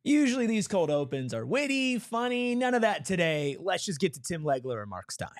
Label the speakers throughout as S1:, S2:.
S1: Usually these cold opens are witty, funny, none of that today. Let's just get to Tim Legler and Mark Stein.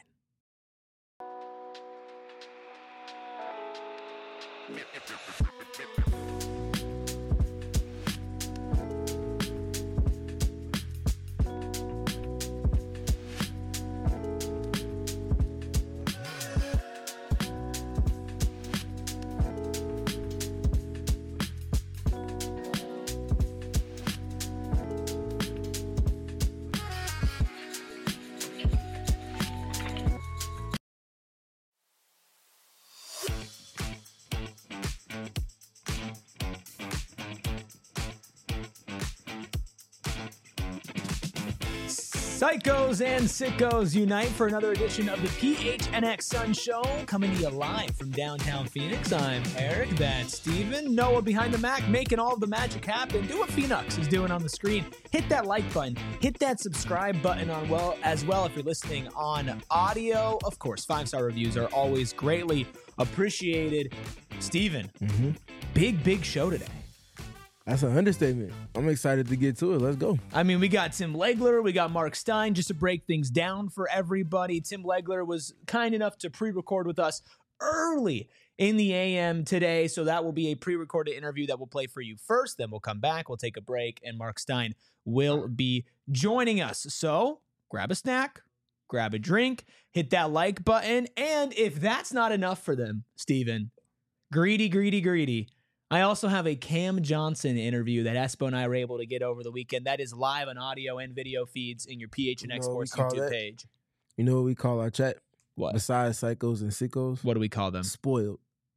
S1: Psychos and sickos unite for another edition of the PHNX Sun Show, coming to you live from downtown Phoenix. I'm Eric, that's Steven, Noah behind the Mac, making all of the magic happen. Do what Phoenix is doing on the screen. Hit that like button, hit that subscribe button as well if you're listening on audio. Of course, 5-star reviews are always greatly appreciated. Steven, big show today.
S2: That's an understatement. I'm excited to get to it. Let's go.
S1: I mean, we got Tim Legler, we got Mark Stein. Just to break things down for everybody, Tim Legler was kind enough to pre-record with us early in the AM today, so that will be a pre-recorded interview that we'll play for you first. Then we'll come back, we'll take a break, and Mark Stein will be joining us. So grab a snack, grab a drink, hit that like button, and if that's not enough for them, Steven, greedy. I also have a Cam Johnson interview that Espo and I were able to get over the weekend. That is live on audio and video feeds in your PHNX Sports YouTube page.
S2: You know what we call our chat?
S1: What?
S2: Besides psychos and sickos?
S1: What do we call them?
S2: Spoiled.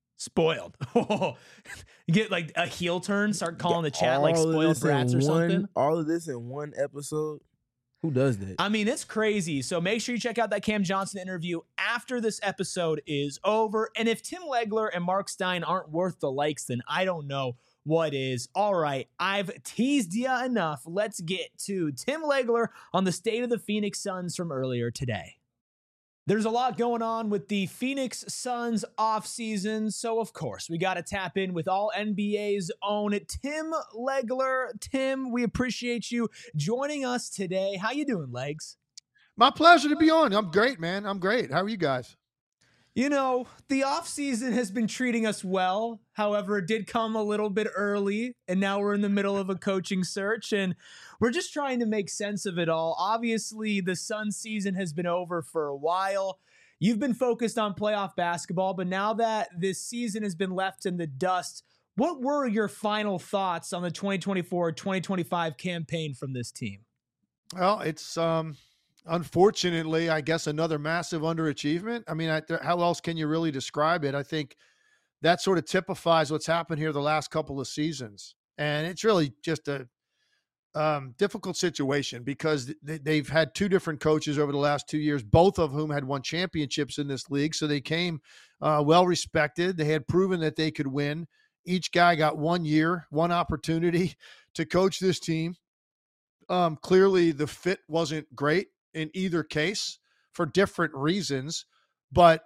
S1: You get like a heel turn, start calling the chat like spoiled brats or something.
S2: All of this in one episode? Who does that?
S1: I mean, it's crazy. So make sure you check out that Cam Johnson interview after this episode is over. And if Tim Legler and Mark Stein aren't worth the likes, then I don't know what is. All right, I've teased you enough. Let's get to Tim Legler on the state of the Phoenix Suns from earlier today. There's a lot going on with the Phoenix Suns offseason, so of course we got to tap in with all NBA's own Tim Legler. Tim, we appreciate you joining us today. How you doing, Legs?
S3: My pleasure to be on. I'm great, man. I'm great. How are you guys?
S1: You know, the offseason has been treating us well. However, it did come a little bit early, and now we're in the middle of a coaching search, and we're just trying to make sense of it all. Obviously, the Suns season has been over for a while. You've been focused on playoff basketball, but now that this season has been left in the dust, what were your final thoughts on the 2024-2025 campaign from this team?
S3: Well, it's unfortunately, I guess, another massive underachievement. I mean, how else can you really describe it? I think that sort of typifies what's happened here the last couple of seasons. And it's really just a difficult situation because they've had two different coaches over the last 2 years, both of whom had won championships in this league. So they came well-respected. They had proven that they could win. Each guy got 1 year, one opportunity to coach this team. Clearly, the fit wasn't great in either case for different reasons, but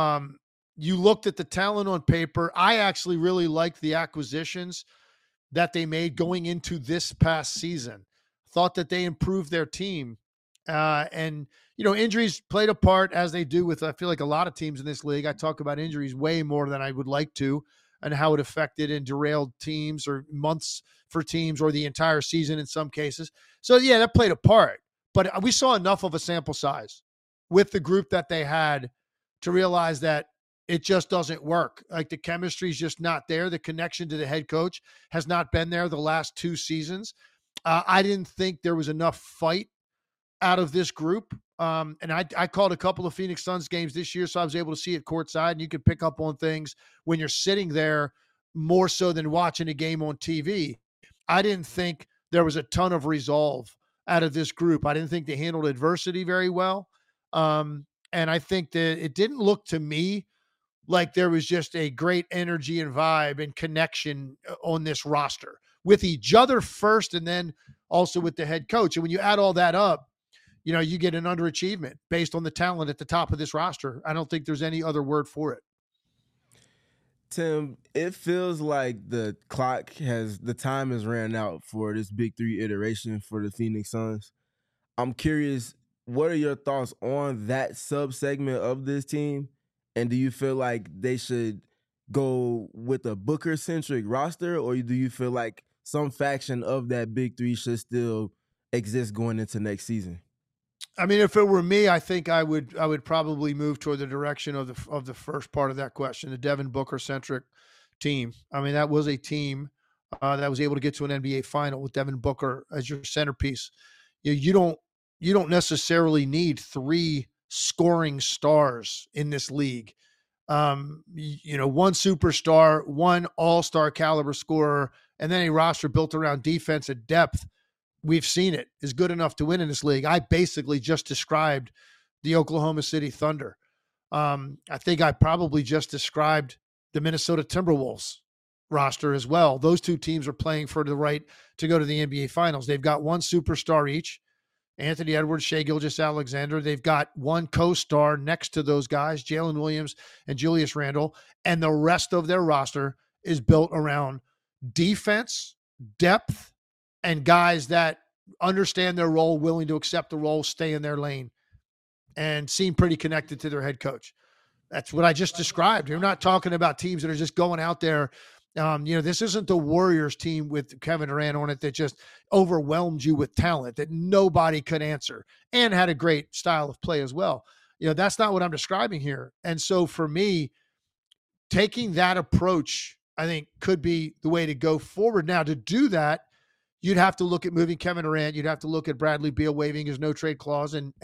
S3: you looked at the talent on paper. I actually really liked the acquisitions that they made going into this past season. Thought that they improved their team. And, you know, injuries played a part, as they do with, I feel like, a lot of teams in this league. I talk about injuries way more than I would like to, and how it affected and derailed teams or months for teams or the entire season in some cases. So, yeah, that played a part. But we saw enough of a sample size with the group that they had to realize that it just doesn't work. Like, the chemistry is just not there. The connection to the head coach has not been there the last two seasons. I didn't think there was enough fight out of this group. And I called a couple of Phoenix Suns games this year, so I was able to see it courtside, and you can pick up on things when you're sitting there more so than watching a game on TV. I didn't think there was a ton of resolve out of this group. I didn't think they handled adversity very well. And I think that it didn't look to me like there was just a great energy and vibe and connection on this roster with each other first, and then also with the head coach. And when you add all that up, you know, you get an underachievement based on the talent at the top of this roster. I don't think there's any other word for it.
S2: Tim, it feels like the time has ran out for this Big Three iteration for the Phoenix Suns. I'm curious, what are your thoughts on that sub-segment of this team? And do you feel like they should go with a Booker-centric roster, or do you feel like some faction of that Big Three should still exist going into next season?
S3: I mean, if it were me, I think I would probably move toward the direction of the first part of that question, the Devin Booker-centric team. I mean, that was a team that was able to get to an NBA final with Devin Booker as your centerpiece. You don't necessarily need 3 scoring stars in this league. One superstar, one all-star caliber scorer, and then a roster built around defense and depth. We've seen it is good enough to win in this league. I basically just described the Oklahoma City Thunder. I think I probably just described the Minnesota Timberwolves roster as well. Those two teams are playing for the right to go to the NBA Finals. They've got one superstar each, Anthony Edwards, Shai Gilgeous-Alexander. They've got one co-star next to those guys, Jalen Williams and Julius Randle, and the rest of their roster is built around defense, depth, and guys that understand their role, willing to accept the role, stay in their lane, and seem pretty connected to their head coach. That's what I just described. You're not talking about teams that are just going out there. This isn't the Warriors team with Kevin Durant on it that just overwhelmed you with talent that nobody could answer and had a great style of play as well. That's not what I'm describing here. And so for me, taking that approach, I think, could be the way to go forward. Now, to do that, you'd have to look at moving Kevin Durant. You'd have to look at Bradley Beal waiving his no-trade clause and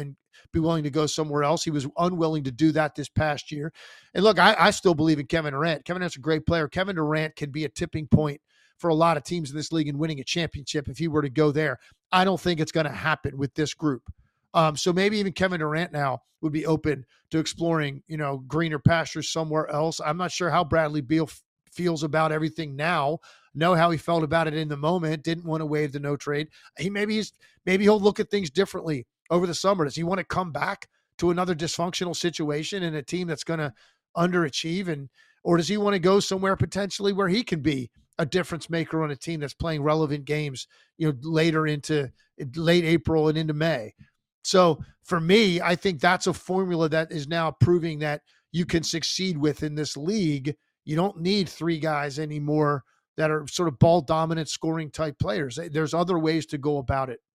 S3: be willing to go somewhere else. He was unwilling to do that this past year. And look, I still believe in Kevin Durant. Kevin Durant's a great player. Kevin Durant can be a tipping point for a lot of teams in this league in winning a championship if he were to go there. I don't think it's going to happen with this group. So maybe even Kevin Durant now would be open to exploring, greener pastures somewhere else. I'm not sure how Bradley Beal feels about everything now. Know how he felt about it in the moment. Didn't want to waive the no trade. Maybe he'll look at things differently over the summer. Does he want to come back to another dysfunctional situation in a team that's going to underachieve, or does he want to go somewhere potentially where he can be a difference maker on a team that's playing relevant games, later into late April and into May? So for me, I think that's a formula that is now proving that you can succeed with in this league. You don't need 3 guys anymore that are sort of ball dominant scoring type players. There's other ways to go about it.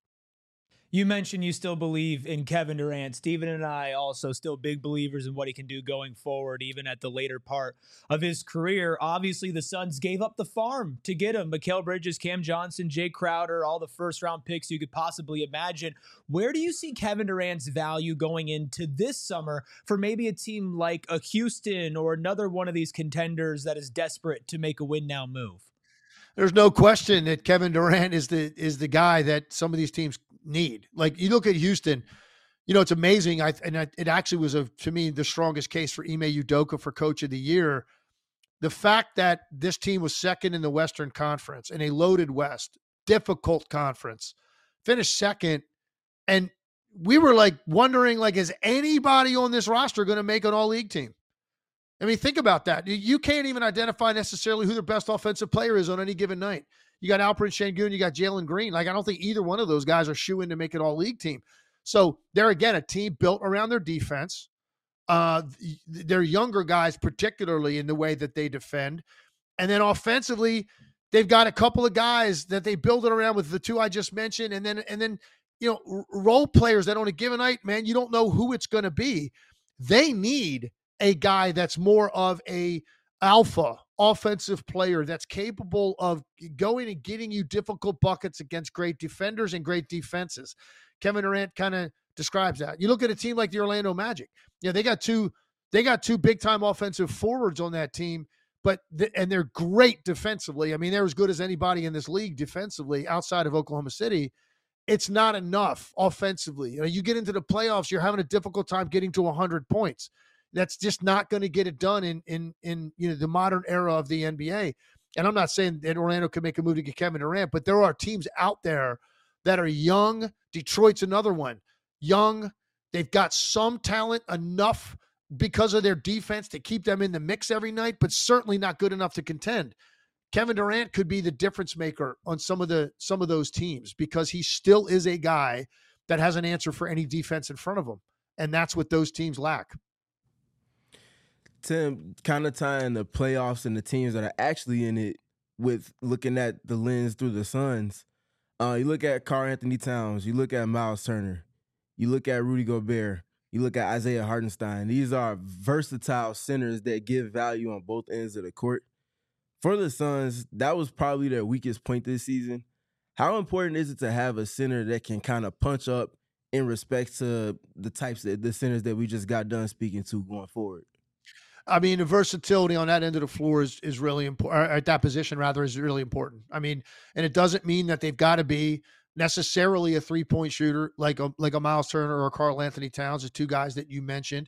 S1: You mentioned you still believe in Kevin Durant. Steven and I also still big believers in what he can do going forward, even at the later part of his career. Obviously, the Suns gave up the farm to get him. Mikal Bridges, Cam Johnson, Jay Crowder, all the first-round picks you could possibly imagine. Where do you see Kevin Durant's value going into this summer for maybe a team like a Houston or another one of these contenders that is desperate to make a win-now move?
S3: There's no question that Kevin Durant is the guy that some of these teams need. Like, you look at Houston, it's amazing. It actually was to me the strongest case for Ime Udoka for Coach of the Year. The fact that this team was second in the Western Conference in a loaded West, difficult conference, finished second, and we were wondering, is anybody on this roster going to make an all-league team? I mean, think about that. You can't even identify necessarily who their best offensive player is on any given night. You got Alperen Sengun, you got Jalen Green. I don't think either one of those guys are shoo-in to make an all-league team. So they're, again, a team built around their defense. They're younger guys, particularly in the way that they defend. And then offensively, they've got a couple of guys that they build it around with the 2 I just mentioned. And then role players that on a given night, man, you don't know who it's going to be. They need a guy that's more of a alpha offensive player that's capable of going and getting you difficult buckets against great defenders and great defenses. Kevin Durant kind of describes that. You look at a team like the Orlando Magic. They got two big time offensive forwards on that team, and they're great defensively. I mean, they're as good as anybody in this league defensively outside of Oklahoma City. It's not enough offensively. You get into the playoffs, you're having a difficult time getting to 100 points. That's just not going to get it done in the modern era of the NBA. And I'm not saying that Orlando can make a move to get Kevin Durant, but there are teams out there that are young. Detroit's another one. Young. They've got some talent enough because of their defense to keep them in the mix every night, but certainly not good enough to contend. Kevin Durant could be the difference maker on some of those teams because he still is a guy that has an answer for any defense in front of him. And that's what those teams lack.
S2: Tim, kind of tying the playoffs and the teams that are actually in it with looking at the lens through the Suns. You look at Karl-Anthony Towns, you look at Miles Turner, you look at Rudy Gobert, you look at Isaiah Hartenstein. These are versatile centers that give value on both ends of the court. For the Suns, that was probably their weakest point this season. How important is it to have a center that can kind of punch up in respect to the centers that we just got done speaking to going forward?
S3: I mean, the versatility on that end of the floor is really important, at that position rather, is really important. I mean, and it doesn't mean that they've got to be necessarily a 3-point shooter like a Miles Turner or Karl-Anthony Towns, the two guys that you mentioned.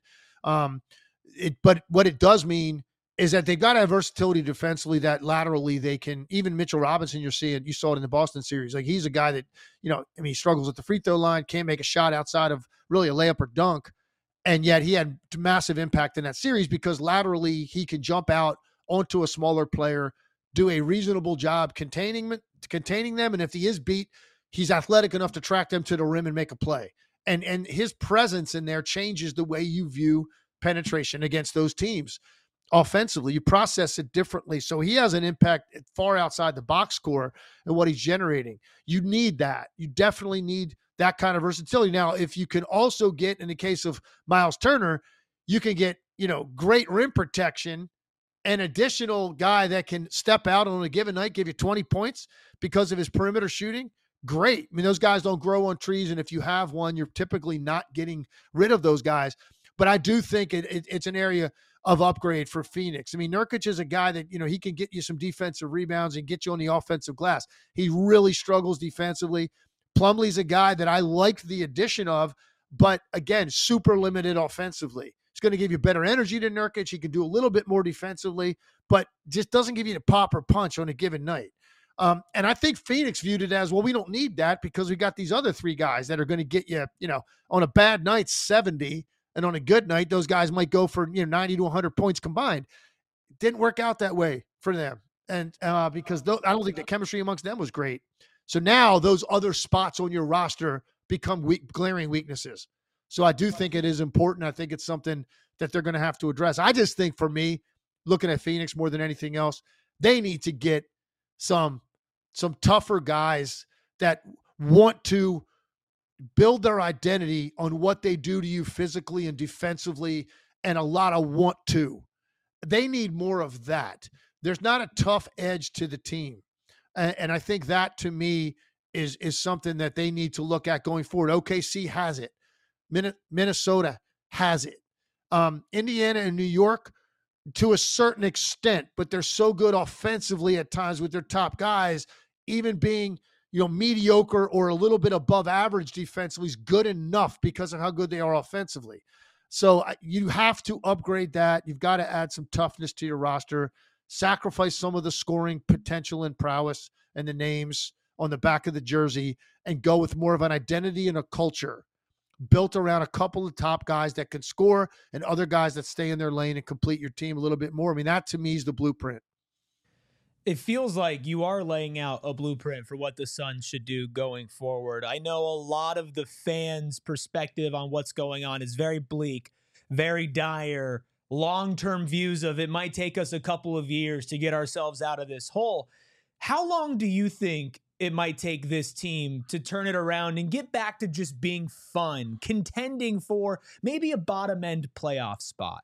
S3: But what it does mean is that they've got to have versatility defensively, that laterally they can, even Mitchell Robinson, you saw it in the Boston series. Like, he's a guy that, he struggles at the free throw line, can't make a shot outside of really a layup or dunk. And yet he had massive impact in that series because laterally he can jump out onto a smaller player, do a reasonable job containing them. And if he is beat, he's athletic enough to track them to the rim and make a play. And his presence in there changes the way you view penetration against those teams. Offensively, you process it differently. So he has an impact far outside the box score and what he's generating. You need that. You definitely need that kind of versatility. Now, if you can also get, in the case of Miles Turner, you can get, great rim protection, an additional guy that can step out on a given night, give you 20 points because of his perimeter shooting. Great. I mean, those guys don't grow on trees. And if you have one, you're typically not getting rid of those guys. But I do think it's an area of upgrade for Phoenix. I mean, Nurkic is a guy that, he can get you some defensive rebounds and get you on the offensive glass. He really struggles defensively. Plumlee's a guy that I like the addition of, but again, super limited offensively. He's going to give you better energy than Nurkic. He can do a little bit more defensively, but just doesn't give you the pop or punch on a given night. And I think Phoenix viewed it as, well, we don't need that because we got these other three guys that are going to get you, on a bad night, 70, and on a good night, those guys might go for 90 to 100 points combined. It didn't work out that way for them, and because I don't think the chemistry amongst them was great. So now those other spots on your roster become glaring weaknesses. So I do think it is important. I think it's something that they're going to have to address. I just think, for me, looking at Phoenix more than anything else, they need to get some tougher guys that want to build their identity on what they do to you physically and defensively, and a lot of want to. They need more of that. There's not a tough edge to the team. And I think that, to me, is something that they need to look at going forward. OKC has it. Minnesota has it. Indiana and New York, to a certain extent, but they're so good offensively at times with their top guys, even being mediocre or a little bit above average defensively is good enough because of how good they are offensively. So you have to upgrade that. You've got to add some toughness to your roster, sacrifice some of the scoring potential and prowess and the names on the back of the jersey, and go with more of an identity and a culture built around a couple of top guys that can score and other guys that stay in their lane and complete your team a little bit more. I mean, that to me is the blueprint.
S1: It feels like you are laying out a blueprint for what the Suns should do going forward. I know a lot of the fans' perspective on what's going on is very bleak, very dire, long-term views of it might take us a couple of years to get ourselves out of this hole. How long do you think it might take this team to turn it around and get back to just being fun, contending for maybe a bottom-end playoff spot?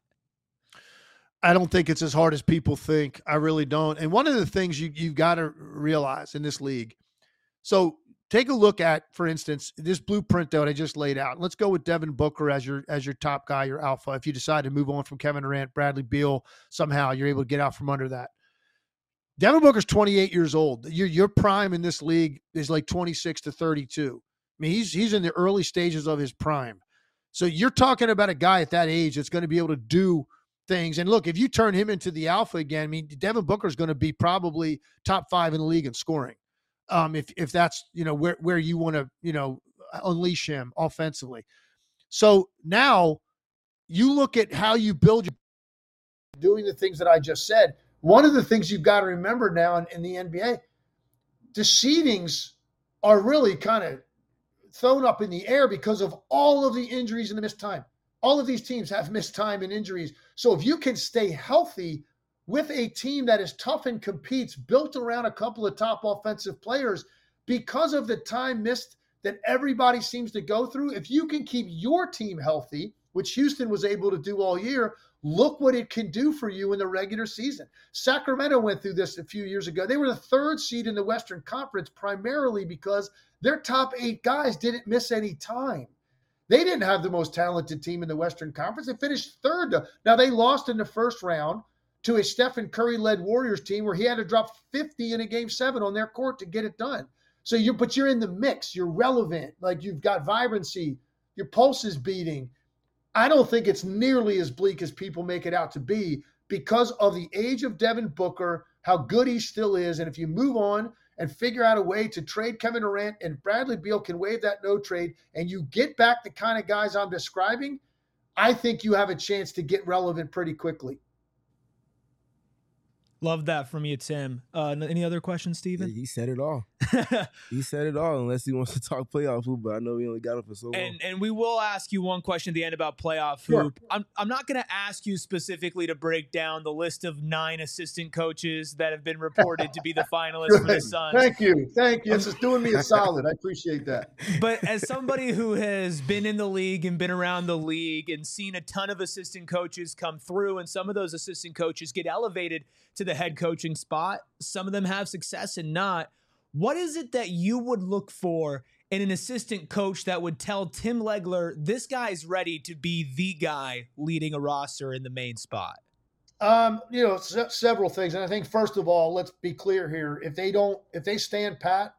S3: I don't think it's as hard as people think. I really don't. And one of the things you've got to realize in this league, so take a look at, for instance, this blueprint that I just laid out. Let's go with Devin Booker as your top guy, your alpha. If you decide to move on from Kevin Durant, Bradley Beal, somehow you're able to get out from under that. Devin Booker's 28 years old. Your prime in this league is like 26 to 32. I mean, he's in the early stages of his prime. So you're talking about a guy at that age that's going to be able to do things. And look, if you turn him into the alpha again, I mean, Devin Booker is going to be probably top 5 in the league in scoring. If that's, where you want to, unleash him offensively. So now you look at how you build your doing the things that I just said. One of the things you've got to remember now in the NBA, the seedings are really kind of thrown up in the air because of all of the injuries and the missed time. All of these teams have missed time and injuries. So if you can stay healthy with a team that is tough and competes, built around a couple of top offensive players, because of the time missed that everybody seems to go through, if you can keep your team healthy, which Houston was able to do all year, look what it can do for you in the regular season. Sacramento went through this a few years ago. They were the 3rd seed in the Western Conference primarily because their top 8 guys didn't miss any time. They didn't have the most talented team in the Western Conference. They finished 3rd. Now, they lost in the first round to a Stephen Curry-led Warriors team where he had to drop 50 in a Game 7 on their court to get it done. So you're in the mix. You're relevant. Like, you've got vibrancy. Your pulse is beating. I don't think it's nearly as bleak as people make it out to be because of the age of Devin Booker, how good he still is. And if you move on and figure out a way to trade Kevin Durant and Bradley Beal can waive that no trade and you get back the kind of guys I'm describing, I think you have a chance to get relevant pretty quickly.
S1: Love that from you, Tim. Any other questions, Steven?
S2: Yeah, he said it all. He said it all, unless he wants to talk playoff hoop, but I know we only got it for so long.
S1: And we will ask you one question at the end about playoff hoop. Sure. I'm not going to ask you specifically to break down the list of 9 assistant coaches that have been reported to be the finalists for the Suns.
S3: Thank you. This is doing me a solid. I appreciate that.
S1: But as somebody who has been in the league and been around the league and seen a ton of assistant coaches come through, and some of those assistant coaches get elevated to the head coaching spot, some of them have success and not. What is it that you would look for in an assistant coach that would tell Tim Legler, this guy's ready to be the guy leading a roster in the main spot?
S3: Several things. And I think, first of all, let's be clear here. If they stand pat,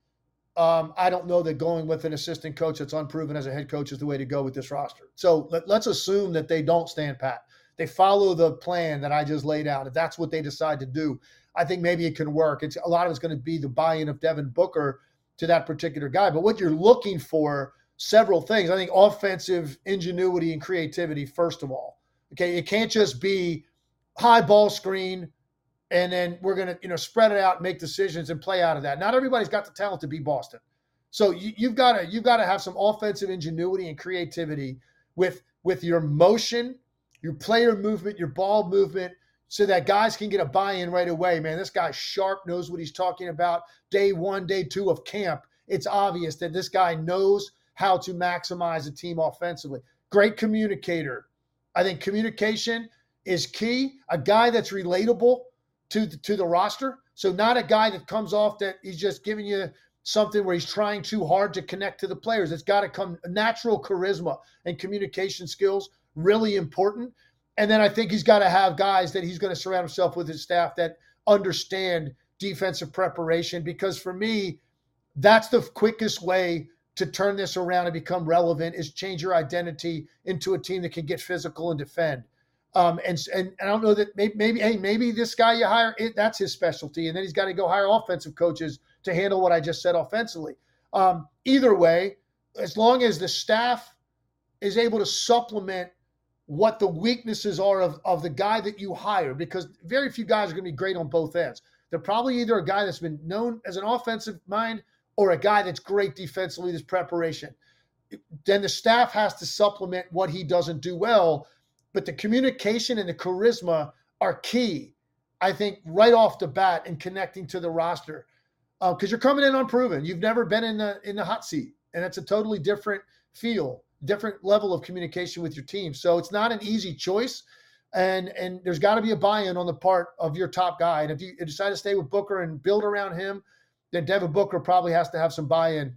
S3: I don't know that going with an assistant coach that's unproven as a head coach is the way to go with this roster. So let's assume that they don't stand pat. They follow the plan that I just laid out. If that's what they decide to do, I think maybe it can work. A lot of it's going to be the buy-in of Devin Booker to that particular guy. But what you're looking for, several things. I think offensive ingenuity and creativity, first of all. Okay, it can't just be high ball screen and then we're going to spread it out and make decisions and play out of that. Not everybody's got the talent to be Boston. So you've got to have some offensive ingenuity and creativity with your motion, your player movement, your ball movement, so that guys can get a buy-in right away. Man, this guy's sharp, knows what he's talking about. Day 1, day 2 of camp, it's obvious that this guy knows how to maximize a team offensively. Great communicator. I think communication is key. A guy that's relatable to the roster. So not a guy that comes off that he's just giving you something where he's trying too hard to connect to the players. It's got to come natural charisma and communication skills, really important. And then I think he's got to have guys that he's going to surround himself with, his staff that understand defensive preparation, because for me, that's the quickest way to turn this around and become relevant, is change your identity into a team that can get physical and defend. And I don't know that maybe this guy you hire, that's his specialty. And then he's got to go hire offensive coaches to handle what I just said offensively. Either way, as long as the staff is able to supplement what the weaknesses are of the guy that you hire, because very few guys are going to be great on both ends. They're probably either a guy that's been known as an offensive mind or a guy that's great defensively, this preparation. Then the staff has to supplement what he doesn't do well. But the communication and the charisma are key, I think, right off the bat in connecting to the roster. Because you're coming in unproven. You've never been in the hot seat. And it's a totally different feel, different level of communication with your team. So it's not an easy choice. And there's got to be a buy-in on the part of your top guy. And if you decide to stay with Booker and build around him, then Devin Booker probably has to have some buy-in.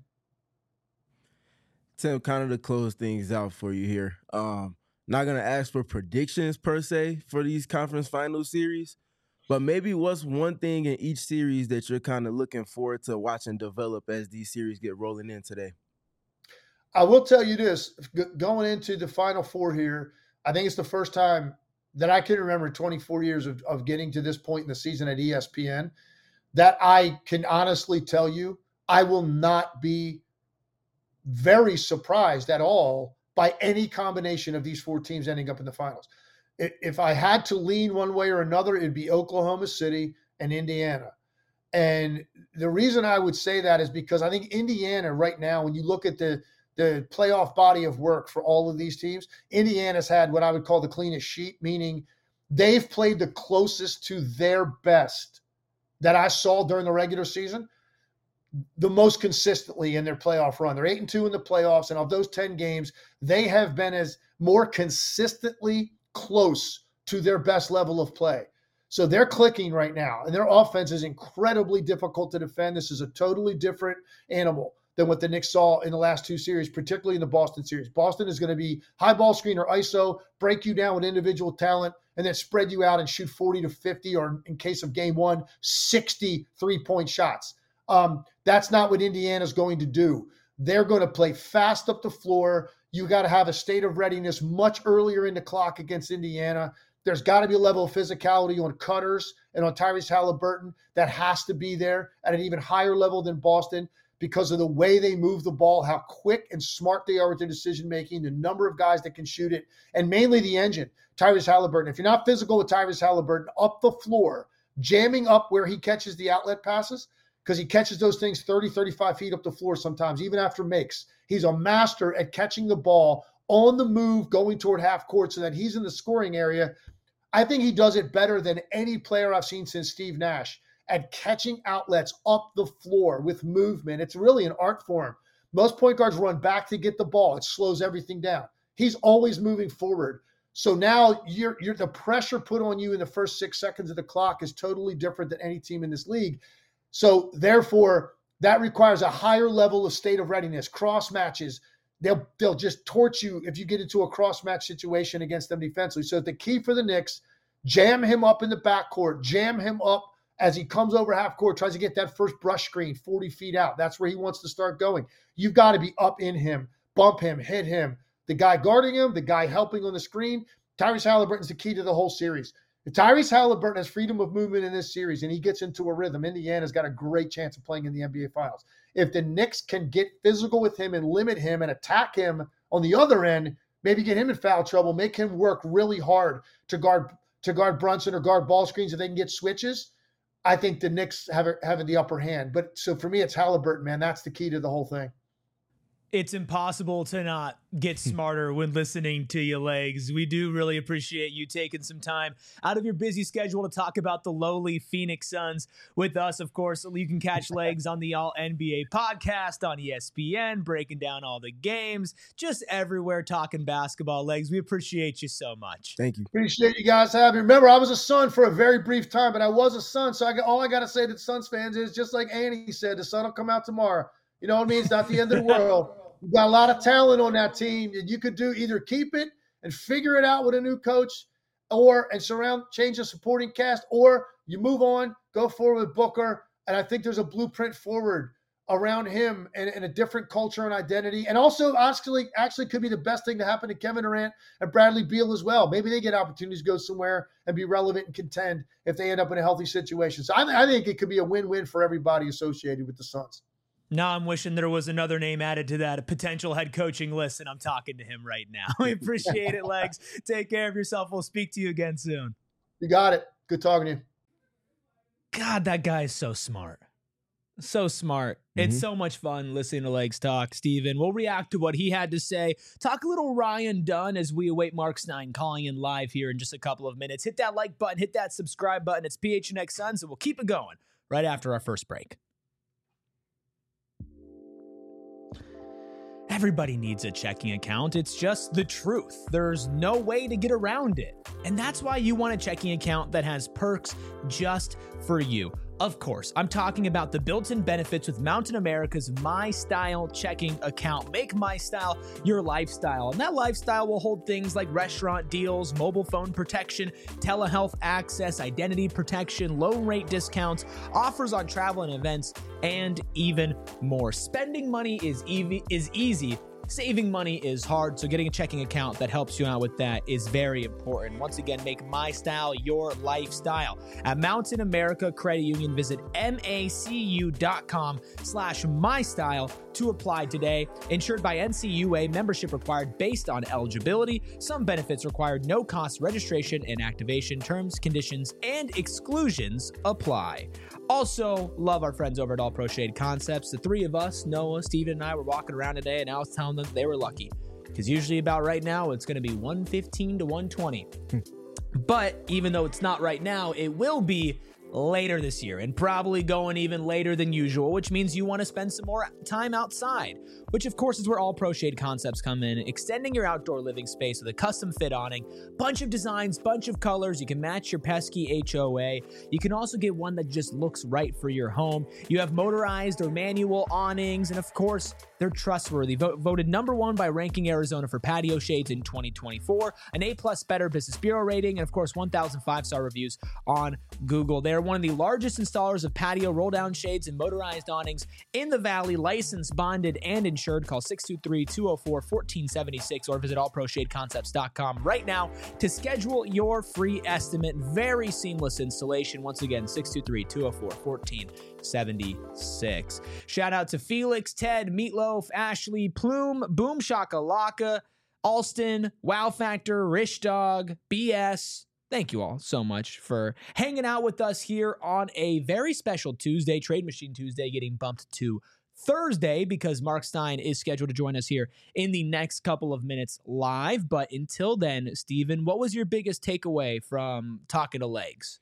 S2: Tim, kind of to close things out for you here. Not going to ask for predictions per se for these conference final series, but maybe what's one thing in each series that you're kind of looking forward to watching develop as these series get rolling in today?
S3: I will tell you this, going into the Final Four here, I think it's the first time that I can remember 24 years of getting to this point in the season at ESPN that I can honestly tell you I will not be very surprised at all by any combination of these 4 teams ending up in the finals. If I had to lean one way or another, it'd be Oklahoma City and Indiana. And the reason I would say that is because I think Indiana right now, when you look at the playoff body of work for all of these teams, Indiana's had what I would call the cleanest sheet, meaning they've played the closest to their best that I saw during the regular season, the most consistently in their playoff run. They're 8-2 in the playoffs, and of those 10 games, they have been as more consistently close to their best level of play. So they're clicking right now, and their offense is incredibly difficult to defend. This is a totally different animal than what the Knicks saw in the last 2 series, particularly in the Boston series. Boston is going to be high ball screen or ISO, break you down with individual talent, and then spread you out and shoot 40 to 50, or in case of game 1, 60 3-point shots. That's not what Indiana's going to do. They're going to play fast up the floor. You got to have a state of readiness much earlier in the clock against Indiana. There's got to be a level of physicality on cutters and on Tyrese Halliburton that has to be there at an even higher level than Boston because of the way they move the ball, how quick and smart they are with their decision-making, the number of guys that can shoot it, and mainly the engine, Tyrese Halliburton. If you're not physical with Tyrese Halliburton up the floor, jamming up where he catches the outlet passes, because he catches those things 30, 35 feet up the floor sometimes, even after makes. He's a master at catching the ball on the move, going toward half court so that he's in the scoring area. I think he does it better than any player I've seen since Steve Nash at catching outlets up the floor with movement. It's really an art form. Most point guards run back to get the ball. It slows everything down. He's always moving forward. So now you're the pressure put on you in the first 6 seconds of the clock is totally different than any team in this league. So therefore, that requires a higher level of state of readiness. Cross matches, they'll just torch you if you get into a cross match situation against them defensively. So the key for the Knicks, jam him up in the backcourt, jam him up as he comes over half court, tries to get that first brush screen 40 feet out. That's where he wants to start going. You've got to be up in him, bump him, hit him. The guy guarding him, the guy helping on the screen. Tyrese Halliburton's the key to the whole series. If Tyrese Halliburton has freedom of movement in this series and he gets into a rhythm, Indiana's got a great chance of playing in the NBA Finals. If the Knicks can get physical with him and limit him and attack him on the other end, maybe get him in foul trouble, make him work really hard to guard Brunson or guard ball screens if they can get switches, I think the Knicks have the upper hand. But so for me, it's Halliburton, man. That's the key to the whole thing.
S1: It's impossible to not get smarter when listening to you, Legs. We do really appreciate you taking some time out of your busy schedule to talk about the lowly Phoenix Suns with us. Of course, you can catch Legs on the All NBA podcast on ESPN, breaking down all the games, just everywhere talking basketball. Legs, we appreciate you so much.
S2: Thank you.
S3: Appreciate you guys having me. Remember, I was a Sun for a very brief time, but I was a Sun, so all I got to say to Suns fans is just like Annie said, the sun will come out tomorrow. You know what I mean? It's not the end of the world. You've got a lot of talent on that team, and you could do either keep it and figure it out with a new coach, change the supporting cast, or you move on, go forward with Booker. And I think there's a blueprint forward around him and a different culture and identity. And also, actually could be the best thing to happen to Kevin Durant and Bradley Beal as well. Maybe they get opportunities to go somewhere and be relevant and contend if they end up in a healthy situation. So I think it could be a win-win for everybody associated with the Suns.
S1: Now I'm wishing there was another name added to that, a potential head coaching list, and I'm talking to him right now. We appreciate it, Legs. Take care of yourself. We'll speak to you again soon.
S3: You got it. Good talking to you.
S1: God, that guy is so smart. So smart. It's so much fun listening to Legs talk, Steven. We'll react to what he had to say. Talk a little Ryan Dunn as we await Mark Stein calling in live here in just a couple of minutes. Hit that like button. Hit that subscribe button. It's PHNX Suns, and we'll keep it going right after our first break. Everybody needs a checking account. It's just the truth. There's no way to get around it. And that's why you want a checking account that has perks just for you. Of course, I'm talking about the built-in benefits with Mountain America's My Style checking account. Make My Style your lifestyle. And that lifestyle will hold things like restaurant deals, mobile phone protection, telehealth access, identity protection, loan rate discounts, offers on travel and events, and even more. Spending money is easy. Saving money is hard, so getting a checking account that helps you out with that is very important. Once again, make My Style your lifestyle. At Mountain America Credit Union, visit macu.com/mystyle to apply today. Insured by NCUA, membership required based on eligibility. Some benefits required, no cost registration and activation. Terms, conditions, and exclusions apply. Also, love our friends over at All Pro Shade Concepts. The three of us, Noah, Steven, and I, were walking around today, and I was telling them they were lucky. Because usually about right now, it's going to be 115 to 120. But even though it's not right now, it will be later this year, and probably going even later than usual, which means you want to spend some more time outside, which of course is where All Pro Shade Concepts come in, extending your outdoor living space with a custom fit awning, bunch of designs, bunch of colors. You can match your pesky HOA. You can also get one that just looks right for your home. You have motorized or manual awnings, and of course, they're trustworthy. Voted number one by Ranking Arizona for patio shades in 2024, an A+ Better Business Bureau rating, and of course, 1,000 5-star reviews on Google. They're one of the largest installers of patio roll-down shades and motorized awnings in the Valley, licensed, bonded, and insured. Call 623-204-1476 or visit allproshadeconcepts.com right now to schedule your free estimate. Very seamless installation. Once again, 623-204-1476. Shout out to Felix, Ted, Meatloaf, Ashley, Plume, Boom Shakalaka, Alston, Wow Factor, Rich Dog, BS. Thank you all so much for hanging out with us here on a very special Tuesday, Trade Machine Tuesday, getting bumped to Thursday because Mark Stein is scheduled to join us here in the next couple of minutes live. But until then, Steven, what was your biggest takeaway from talking to Legs?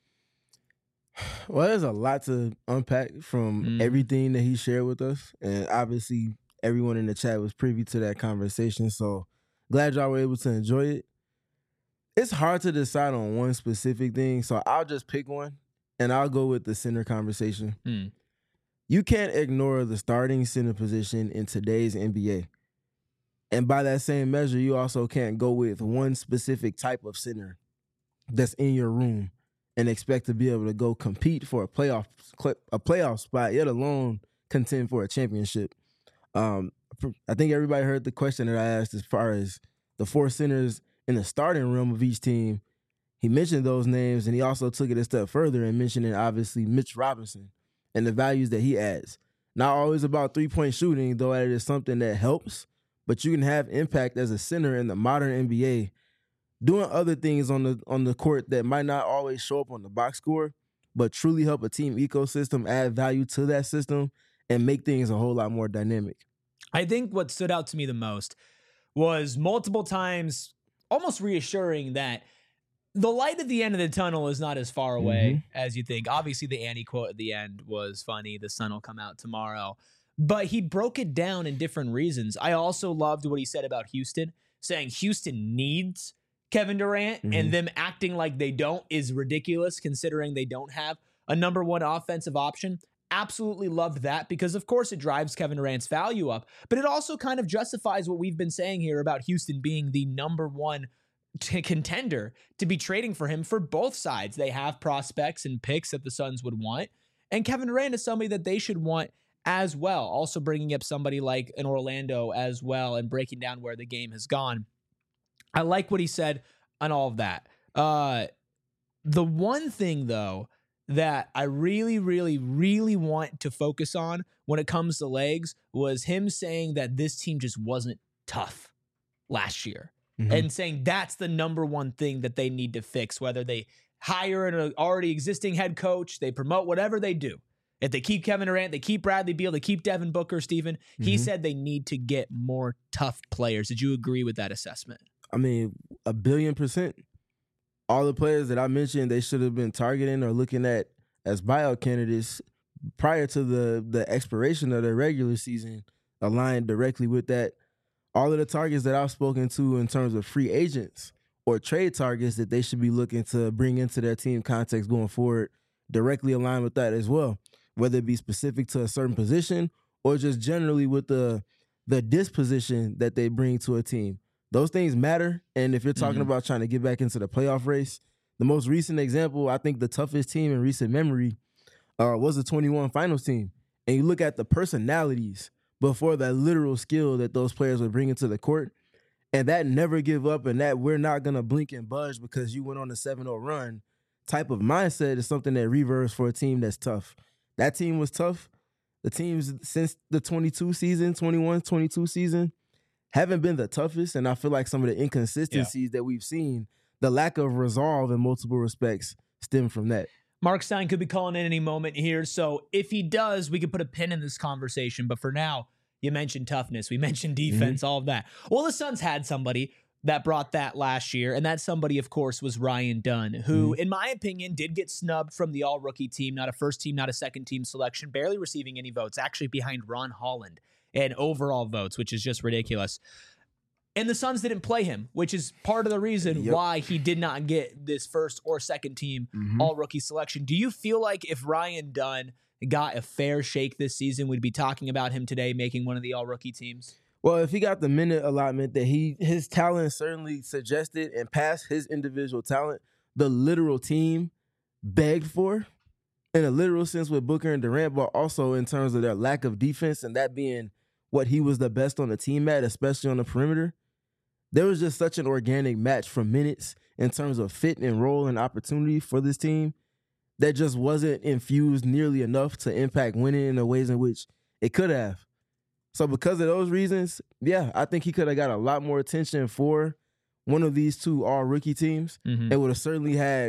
S2: Well, there's a lot to unpack from everything that he shared with us. And obviously, everyone in the chat was privy to that conversation. So glad y'all were able to enjoy it. It's hard to decide on one specific thing, so I'll just pick one, and I'll go with the center conversation. You can't ignore the starting center position in today's NBA. And by that same measure, you also can't go with one specific type of center that's in your room and expect to be able to go compete for a playoff spot, yet alone contend for a championship. I think everybody heard the question that I asked as far as the four centers in the starting room of each team. He mentioned those names, and he also took it a step further and mentioning, obviously, Mitch Robinson and the values that he adds. Not always about three-point shooting, though it is something that helps, but you can have impact as a center in the modern NBA doing other things on the court that might not always show up on the box score, but truly help a team ecosystem add value to that system and make things a whole lot more dynamic.
S1: I think what stood out to me the most was multiple times almost reassuring that the light at the end of the tunnel is not as far away as you think. Obviously, the Annie quote at the end was funny. The sun will come out tomorrow. But he broke it down in different reasons. I also loved what he said about Houston, saying Houston needs Kevin Durant, and them acting like they don't is ridiculous considering they don't have a number one offensive option. Absolutely loved that because, of course, it drives Kevin Durant's value up, but it also kind of justifies what we've been saying here about Houston being the number one contender to be trading for him for both sides. They have prospects and picks that the Suns would want, and Kevin Durant is somebody that they should want as well. Also bringing up somebody like an Orlando as well and breaking down where the game has gone. I like what he said on all of that. The one thing, though, that I really, really, really want to focus on when it comes to Legs was him saying that this team just wasn't tough last year and saying that's the number one thing that they need to fix, whether they hire an already existing head coach, they promote, whatever they do. If they keep Kevin Durant, they keep Bradley Beal, they keep Devin Booker, Steven, he said they need to get more tough players. Did you agree with that assessment?
S2: I mean, 1,000,000,000%. All the players that I mentioned, they should have been targeting or looking at as buyout candidates prior to the expiration of their regular season, aligned directly with that. All of the targets that I've spoken to in terms of free agents or trade targets that they should be looking to bring into their team context going forward directly align with that as well, whether it be specific to a certain position or just generally with the disposition that they bring to a team. Those things matter, and if you're talking about trying to get back into the playoff race, the most recent example, I think the toughest team in recent memory was the 21 finals team. And you look at the personalities before that literal skill that those players were bringing to the court, and that never give up and that we're not going to blink and budge because you went on a 7-0 run type of mindset is something that reverse for a team that's tough. That team was tough. the teams since the 22 season, 21, 22 season, haven't been the toughest. And I feel like some of the inconsistencies that we've seen, the lack of resolve in multiple respects, stem from that.
S1: Mark Stein could be calling in any moment here. So if he does, we could put a pin in this conversation. But for now, you mentioned toughness. We mentioned defense, all of that. Well, the Suns had somebody that brought that last year. And that somebody, of course, was Ryan Dunn, who, in my opinion, did get snubbed from the all-rookie team. Not a first team, not a second team selection, barely receiving any votes, actually behind Ron Holland in overall votes, which is just ridiculous. And the Suns didn't play him, which is part of the reason why he did not get this first or second team all-rookie selection. Do you feel like if Ryan Dunn got a fair shake this season, we'd be talking about him today making one of the all-rookie teams?
S2: Well, if he got the minute allotment that his talent certainly suggested and past his individual talent, the literal team begged for, in a literal sense with Booker and Durant, but also in terms of their lack of defense and that being what he was the best on the team at, especially on the perimeter, there was just such an organic match for minutes in terms of fit and role and opportunity for this team that just wasn't infused nearly enough to impact winning in the ways in which it could have. So because of those reasons, yeah, I think he could have got a lot more attention for one of these two all-rookie teams. It would have certainly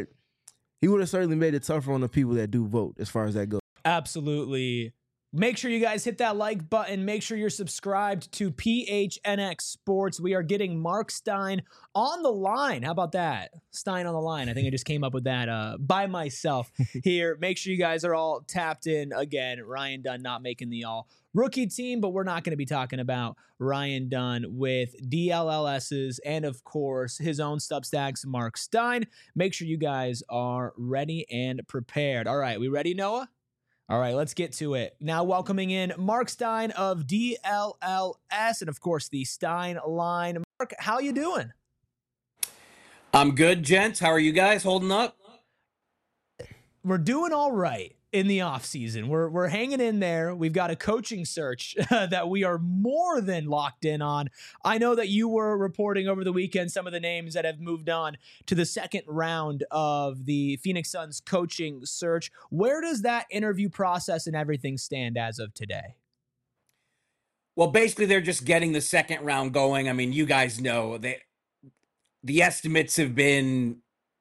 S2: he would have certainly made it tougher on the people that do vote as far as that goes.
S1: Absolutely. Make sure you guys hit that like button. Make sure you're subscribed to PHNX Sports. We are getting Mark Stein on the line. How about that? Stein on the line. I think I just came up with that by myself here. Make sure you guys are all tapped in. Again, Ryan Dunn not making the all-rookie team, but we're not going to be talking about Ryan Dunn with DLLS's and, of course, his own Substacks, Mark Stein. Make sure you guys are ready and prepared. All right, we ready, Noah? All right, let's get to it. Now welcoming in Mark Stein of DLLS and, of course, the Stein line. Mark, how you doing?
S4: I'm good, gents. How are you guys holding up?
S1: We're doing all right in the offseason. We're hanging in there. We've got a coaching search that we are more than locked in on. I know that you were reporting over the weekend some of the names that have moved on to the second round of the Phoenix Suns coaching search. Where does that interview process and everything stand as of today?
S4: Well, basically, they're just getting the second round going. I mean, you guys know the estimates have been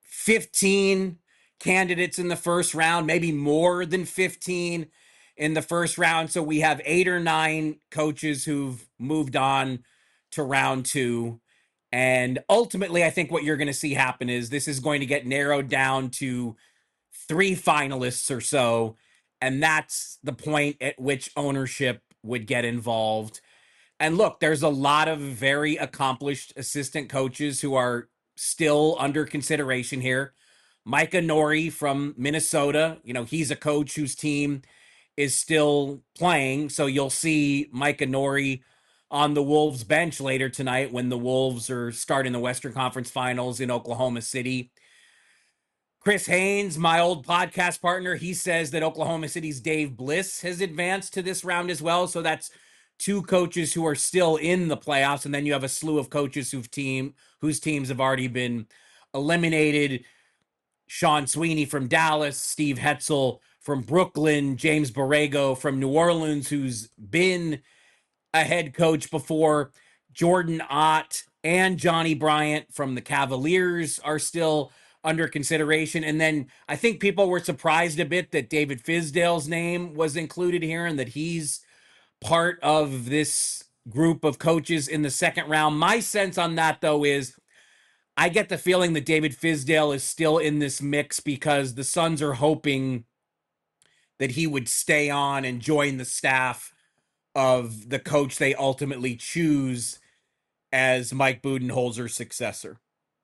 S4: 15 candidates in the first round, maybe more than 15 in the first round. So we have 8 or 9 coaches who've moved on to round 2. And ultimately, I think what you're going to see happen is this is going to get narrowed down to 3 finalists or so. And that's the point at which ownership would get involved. And look, there's a lot of very accomplished assistant coaches who are still under consideration here. Micah Nori from Minnesota, he's a coach whose team is still playing. So you'll see Micah Nori on the Wolves bench later tonight when the Wolves are starting the Western Conference Finals in Oklahoma City. Chris Haynes, my old podcast partner, he says that Oklahoma City's Dave Bliss has advanced to this round as well. So that's 2 coaches who are still in the playoffs. And then you have a slew of coaches whose teams have already been eliminated. Sean Sweeney from Dallas, Steve Hetzel from Brooklyn, James Borrego from New Orleans, who's been a head coach before. Jordan Ott and Johnny Bryant from the Cavaliers are still under consideration. And then I think people were surprised a bit that David Fizdale's name was included here and that he's part of this group of coaches in the second round. My sense on that, though, is I get the feeling that David Fizdale is still in this mix because the Suns are hoping that he would stay on and join the staff of the coach they ultimately choose as Mike Budenholzer's successor.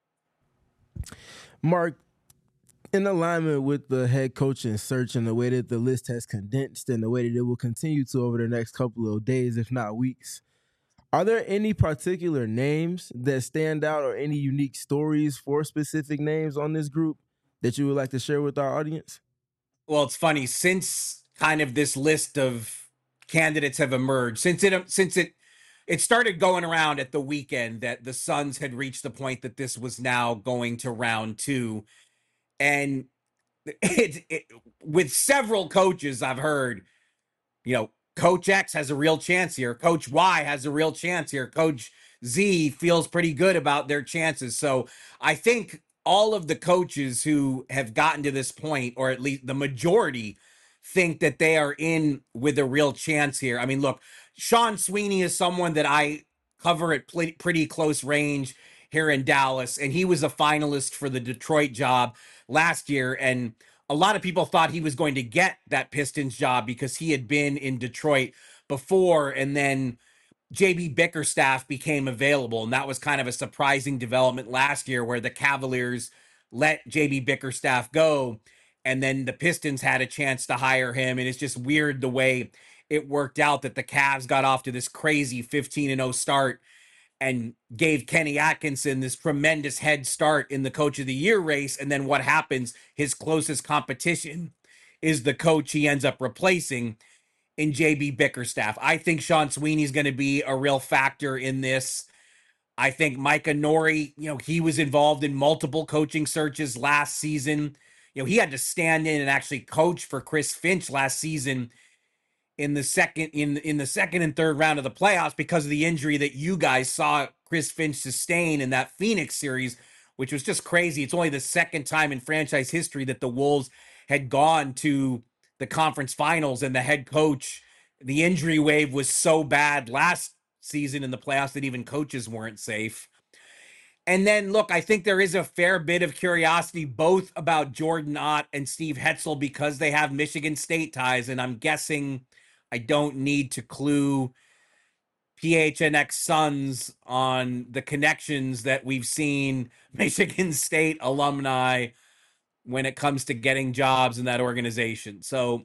S2: Mark, in alignment with the head coaching search and the way that the list has condensed and the way that it will continue to over the next couple of days, if not weeks, are there any particular names that stand out or any unique stories for specific names on this group that you would like to share with our audience?
S4: Well, it's funny, since kind of this list of candidates have emerged, since it started going around at the weekend that the Suns had reached the point that this was now going to round 2. And with several coaches I've heard, Coach X has a real chance here. Coach Y has a real chance here. Coach Z feels pretty good about their chances. So I think all of the coaches who have gotten to this point, or at least the majority, think that they are in with a real chance here. I mean, look, Sean Sweeney is someone that I cover at pretty close range here in Dallas, and he was a finalist for the Detroit job last year, and a lot of people thought he was going to get that Pistons job because he had been in Detroit before, and then JB Bickerstaff became available, and that was kind of a surprising development last year where the Cavaliers let JB Bickerstaff go, and then the Pistons had a chance to hire him, and it's just weird the way it worked out that the Cavs got off to this crazy 15-0 start and gave Kenny Atkinson this tremendous head start in the Coach of the Year race, and then what happens, his closest competition is the coach he ends up replacing in JB Bickerstaff. I think Sean Sweeney's going to be a real factor in this. I think Micah Nori, he was involved in multiple coaching searches last season. He had to stand in and actually coach for Chris Finch last season in the second and third round of the playoffs because of the injury that you guys saw Chris Finch sustain in that Phoenix series, which was just crazy. It's only the second time in franchise history that the Wolves had gone to the conference finals, and the head coach, the injury wave was so bad last season in the playoffs that even coaches weren't safe. And then, look, I think there is a fair bit of curiosity both about Jordan Ott and Steve Hetzel because they have Michigan State ties, and I'm guessing I don't need to clue PHNX Suns on the connections that we've seen Michigan State alumni when it comes to getting jobs in that organization. So,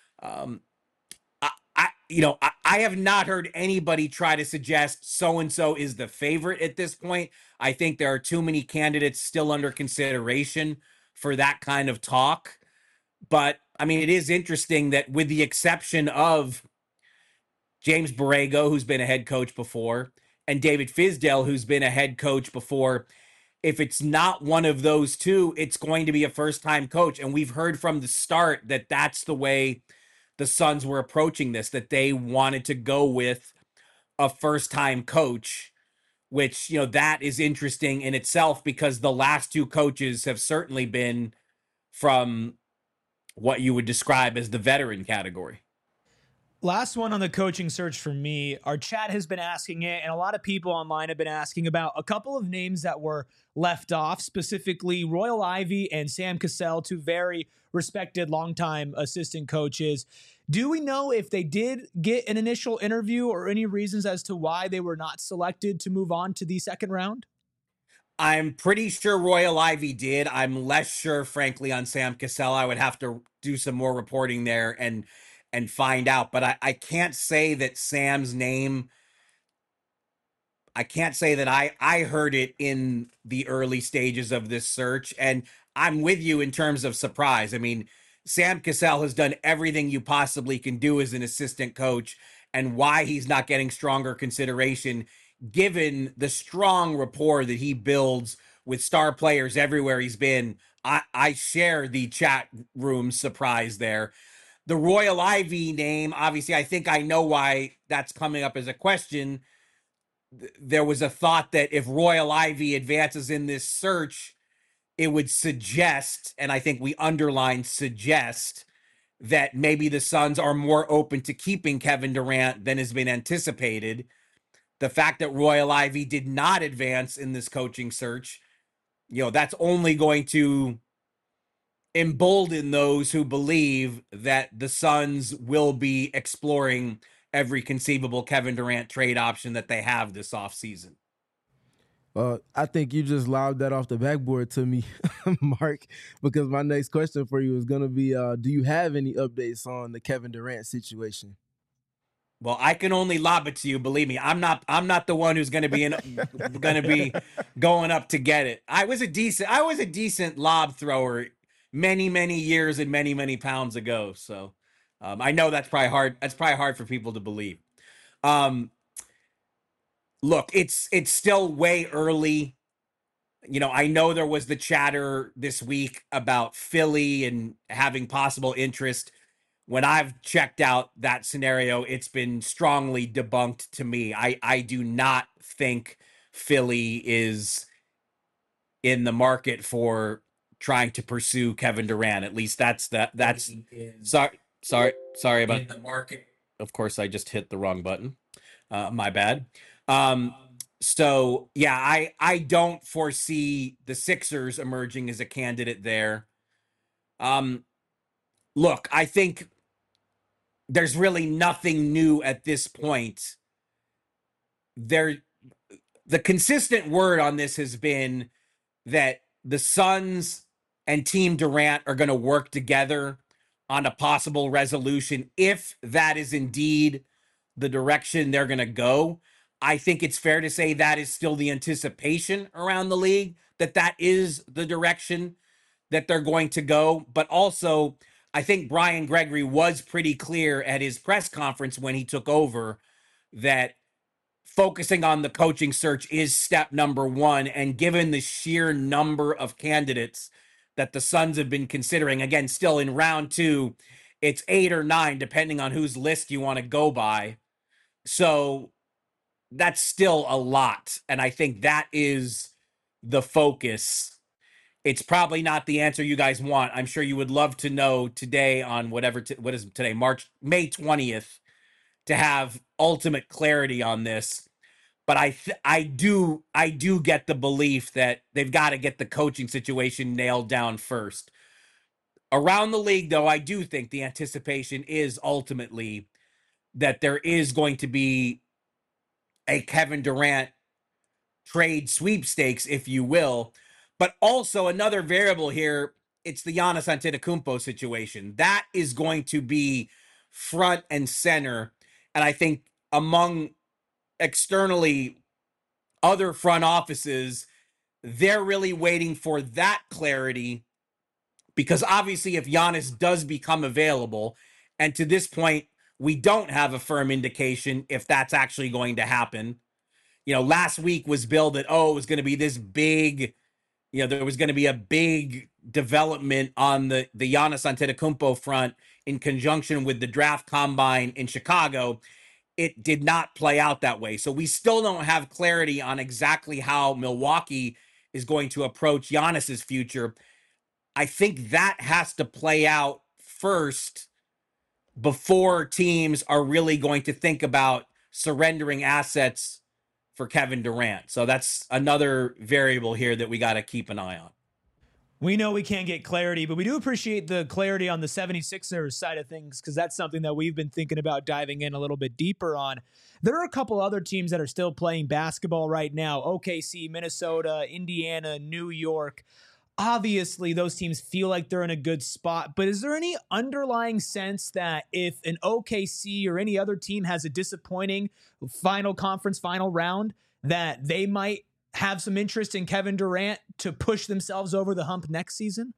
S4: I have not heard anybody try to suggest so-and-so is the favorite at this point. I think there are too many candidates still under consideration for that kind of talk. But, I mean, it is interesting that with the exception of James Borrego, who's been a head coach before, and David Fizdale, who's been a head coach before, if it's not one of those two, it's going to be a first-time coach. And we've heard from the start that that's the way the Suns were approaching this, that they wanted to go with a first-time coach, which, that is interesting in itself because the last two coaches have certainly been from what you would describe as the veteran category.
S1: Last one on the coaching search for me. Our chat has been asking it, and a lot of people online have been asking about a couple of names that were left off, specifically Royal Ivey and Sam Cassell, two very respected longtime assistant coaches. Do we know if they did get an initial interview or any reasons as to why they were not selected to move on to the second round?
S4: I'm pretty sure Royal Ivey did. I'm less sure, frankly, on Sam Cassell. I would have to do some more reporting there and find out. But I can't say that Sam's name, I can't say that I heard it in the early stages of this search. And I'm with you in terms of surprise. I mean, Sam Cassell has done everything you possibly can do as an assistant coach, and why he's not getting stronger consideration, given the strong rapport that he builds with star players everywhere he's been. I share the chat room surprise there. The Royal Ivey name, obviously, I think I know why that's coming up as a question. There was a thought that if Royal Ivey advances in this search, it would suggest, and I think we underline suggest, that maybe the Suns are more open to keeping Kevin Durant than has been anticipated. The fact that Royal Ivey did not advance in this coaching search, that's only going to embolden those who believe that the Suns will be exploring every conceivable Kevin Durant trade option that they have this offseason.
S2: I think you just lobbed that off the backboard to me, Mark, because my next question for you is going to be, do you have any updates on the Kevin Durant situation?
S4: Well, I can only lob it to you. Believe me, I'm not the one who's going to be going up to get it. I was a decent lob thrower many years and many pounds ago. So I know that's probably hard. That's probably hard for people to believe. Look, it's still way early. I know there was the chatter this week about Philly and having possible interest. when I've checked out that scenario, it's been strongly debunked to me. I do not think Philly is in the market for trying to pursue Kevin Durant. At least that's sorry about the market. Of course, I just hit the wrong button. My bad. So yeah, I don't foresee the Sixers emerging as a candidate there. Look, I think there's really nothing new at this point. The consistent word on this has been that the Suns and Team Durant are going to work together on a possible resolution if that is indeed the direction they're going to go. I think it's fair to say that is still the anticipation around the league, that is the direction that they're going to go. But also, I think Brian Gregory was pretty clear at his press conference when he took over that focusing on the coaching search is step number one. And given the sheer number of candidates that the Suns have been considering, again, still in round 2, it's 8 or 9, depending on whose list you want to go by. So that's still a lot. And I think that is the focus. It's probably not the answer you guys want. I'm sure you would love to know today on what is today, May 20th, to have ultimate clarity on this. But I do get the belief that they've got to get the coaching situation nailed down first. Around the league, though, I do think the anticipation is ultimately that there is going to be a Kevin Durant trade sweepstakes, if you will. But also another variable here, it's the Giannis Antetokounmpo situation. That is going to be front and center. And I think among externally other front offices, they're really waiting for that clarity, because obviously if Giannis does become available, and to this point, we don't have a firm indication if that's actually going to happen. You know, last week was billed that, it was going to be this big, there was going to be a big development on the Giannis Antetokounmpo front in conjunction with the draft combine in Chicago. It did not play out that way. So we still don't have clarity on exactly how Milwaukee is going to approach Giannis's future. I think that has to play out first before teams are really going to think about surrendering assets for Kevin Durant. So that's another variable here that we got to keep an eye on.
S1: We know we can't get clarity, but we do appreciate the clarity on the 76ers side of things, because that's something that we've been thinking about diving in a little bit deeper on. There are a couple other teams that are still playing basketball right now: OKC, Minnesota, Indiana, New York. Obviously, those teams feel like they're in a good spot, but is there any underlying sense that if an OKC or any other team has a disappointing final round, that they might have some interest in Kevin Durant to push themselves over the hump next season?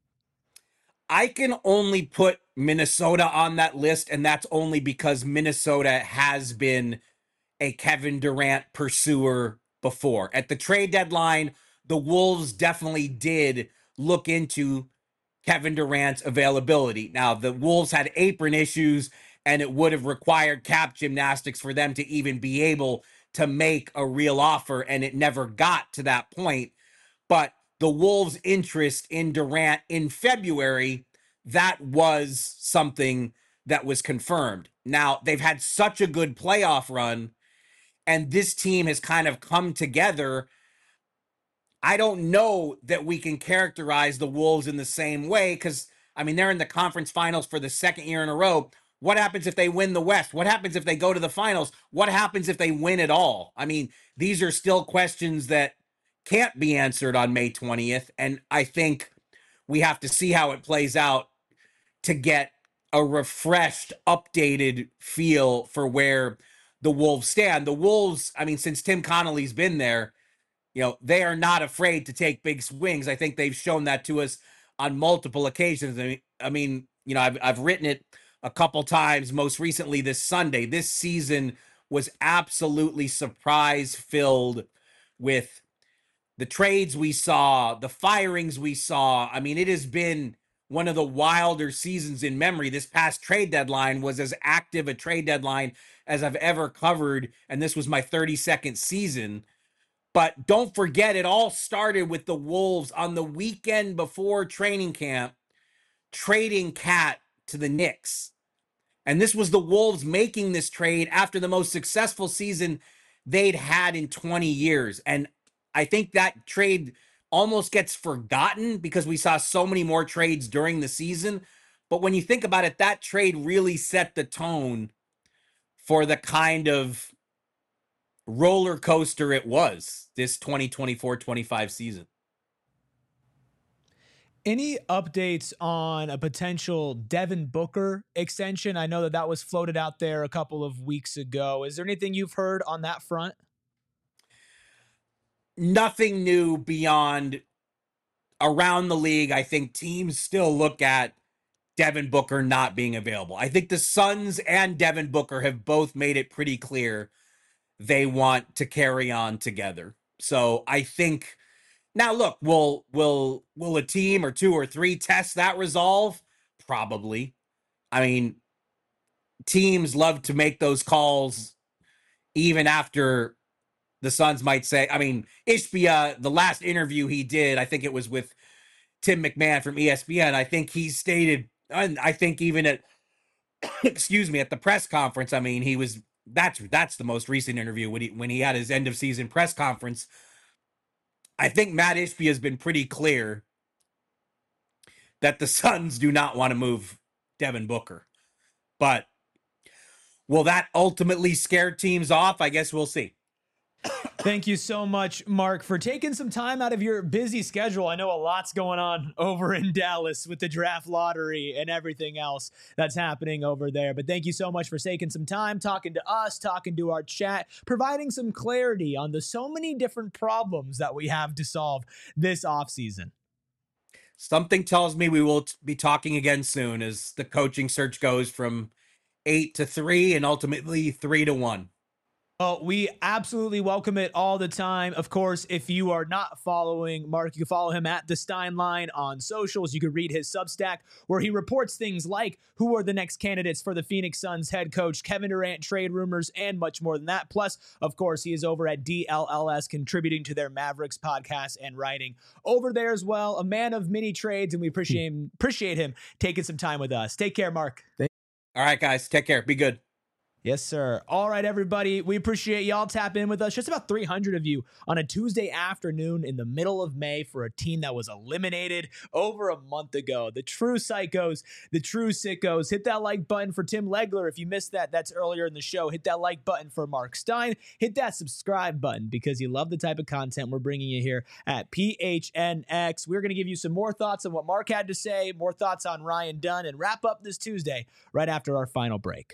S4: I can only put Minnesota on that list, and that's only because Minnesota has been a Kevin Durant pursuer before. At the trade deadline, the Wolves definitely did look into Kevin Durant's availability. Now, the Wolves had apron issues, and it would have required cap gymnastics for them to even be able to make a real offer, and it never got to that point. But the Wolves' interest in Durant in February, that was something that was confirmed. Now, they've had such a good playoff run, and this team has kind of come together. I don't know that we can characterize the Wolves in the same way, because, I mean, they're in the conference finals for the second year in a row. What happens if they win the West? What happens if they go to the finals? What happens if they win it all? I mean, these are still questions that can't be answered on May 20th, and I think we have to see how it plays out to get a refreshed, updated feel for where the Wolves stand. The Wolves, I mean, since Tim Connolly's been there, they are not afraid to take big swings. I think they've shown that to us on multiple occasions. I mean, I've written it a couple times, most recently this Sunday. This season was absolutely surprise-filled with the trades we saw, the firings we saw. I mean, it has been one of the wilder seasons in memory. This past trade deadline was as active a trade deadline as I've ever covered, and this was my 32nd season. But don't forget, it all started with the Wolves on the weekend before training camp trading Cat to the Knicks. And this was the Wolves making this trade after the most successful season they'd had in 20 years. And I think that trade almost gets forgotten because we saw so many more trades during the season. But when you think about it, that trade really set the tone for the kind of roller coaster it was this 2024-25 season.
S1: Any updates on a potential Devin Booker extension? I know that was floated out there a couple of weeks ago. Is there anything you've heard on that front?
S4: Nothing new beyond around the league. I think teams still look at Devin Booker not being available. I think the Suns and Devin Booker have both made it pretty clear they want to carry on together. So I think now, look, will a team or two or three test that resolve? Probably. I mean, teams love to make those calls even after the Suns might say, I mean, Ishbia, the last interview he did, I think it was with Tim McMahon from ESPN. I think he stated, and I think even at, excuse me, at the press conference, I mean, he was, that's the most recent interview when he had his end of season press conference. I think Matt Ishbia has been pretty clear that the Suns do not want to move Devin Booker. But will that ultimately scare teams off? I guess we'll see.
S1: Thank you so much, Mark, for taking some time out of your busy schedule. I know a lot's going on over in Dallas with the draft lottery and everything else that's happening over there. But thank you so much for taking some time, talking to us, talking to our chat, providing some clarity on the so many different problems that we have to solve this offseason.
S4: Something tells me we will be talking again soon as the coaching search goes from 8 to 3 and ultimately 3 to 1.
S1: Well, we absolutely welcome it all the time. Of course, if you are not following Mark, you can follow him at The Stein Line on socials. You can read his Substack where he reports things like who are the next candidates for the Phoenix Suns head coach, Kevin Durant trade rumors, and much more than that. Plus, of course, he is over at DLLS contributing to their Mavericks podcast and writing over there as well. A man of many trades, and we appreciate him taking some time with us. Take care, Mark.
S4: All right, guys. Take care. Be good.
S1: Yes, sir. All right, everybody. We appreciate y'all tapping in with us. Just about 300 of you on a Tuesday afternoon in the middle of May for a team that was eliminated over a month ago. The true psychos, the true sickos. Hit that like button for Tim Legler. If you missed that, that's earlier in the show. Hit that like button for Mark Stein. Hit that subscribe button because you love the type of content we're bringing you here at PHNX. We're going to give you some more thoughts on what Mark had to say, more thoughts on Ryan Dunn, and wrap up this Tuesday right after our final break.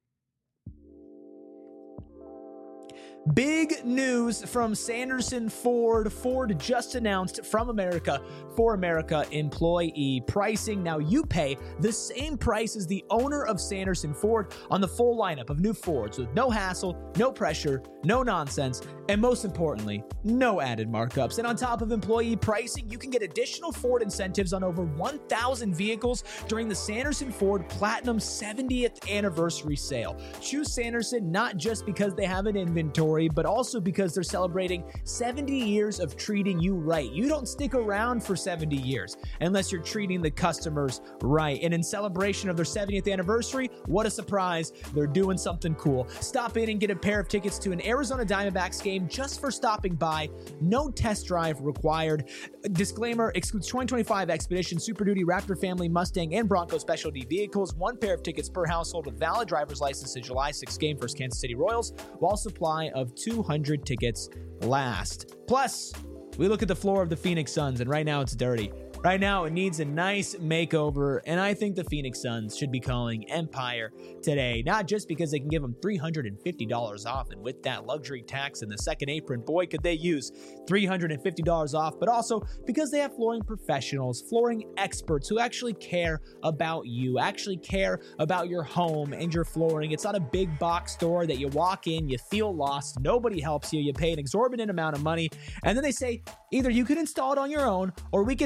S1: Big news from Sanderson Ford. Ford just announced from America for America employee pricing. Now you pay the same price as the owner of Sanderson Ford on the full lineup of new Fords with no hassle, no pressure, no nonsense, and most importantly, no added markups. And on top of employee pricing, you can get additional Ford incentives on over 1,000 vehicles during the Sanderson Ford Platinum 70th anniversary sale. Choose Sanderson not just because they have an inventory, but also because they're celebrating 70 years of treating you right. You don't stick around for 70 years unless you're treating the customers right. And in celebration of their 70th anniversary, what a surprise, they're doing something cool. Stop in and get a pair of tickets to an Arizona Diamondbacks game just for stopping by. No test drive required. Disclaimer, excludes 2025 Expedition, Super Duty, Raptor Family, Mustang, and Bronco specialty vehicles. One pair of tickets per household with valid driver's license to July 6th game versus Kansas City Royals, while supply of 200 tickets last. Plus, we look at the floor of the Phoenix Suns, and right now it's dirty. Right now, it needs a nice makeover, and I think the Phoenix Suns should be calling Empire today, not just because they can give them $350 off, and with that luxury tax and the second apron, boy, could they use $350 off, but also because they have flooring professionals, flooring experts who actually care about you, actually care about your home and your flooring. It's not a big box store that you walk in, you feel lost, nobody helps you, you pay an exorbitant amount of money, and then they say, either you can install it on your own, or we can help you out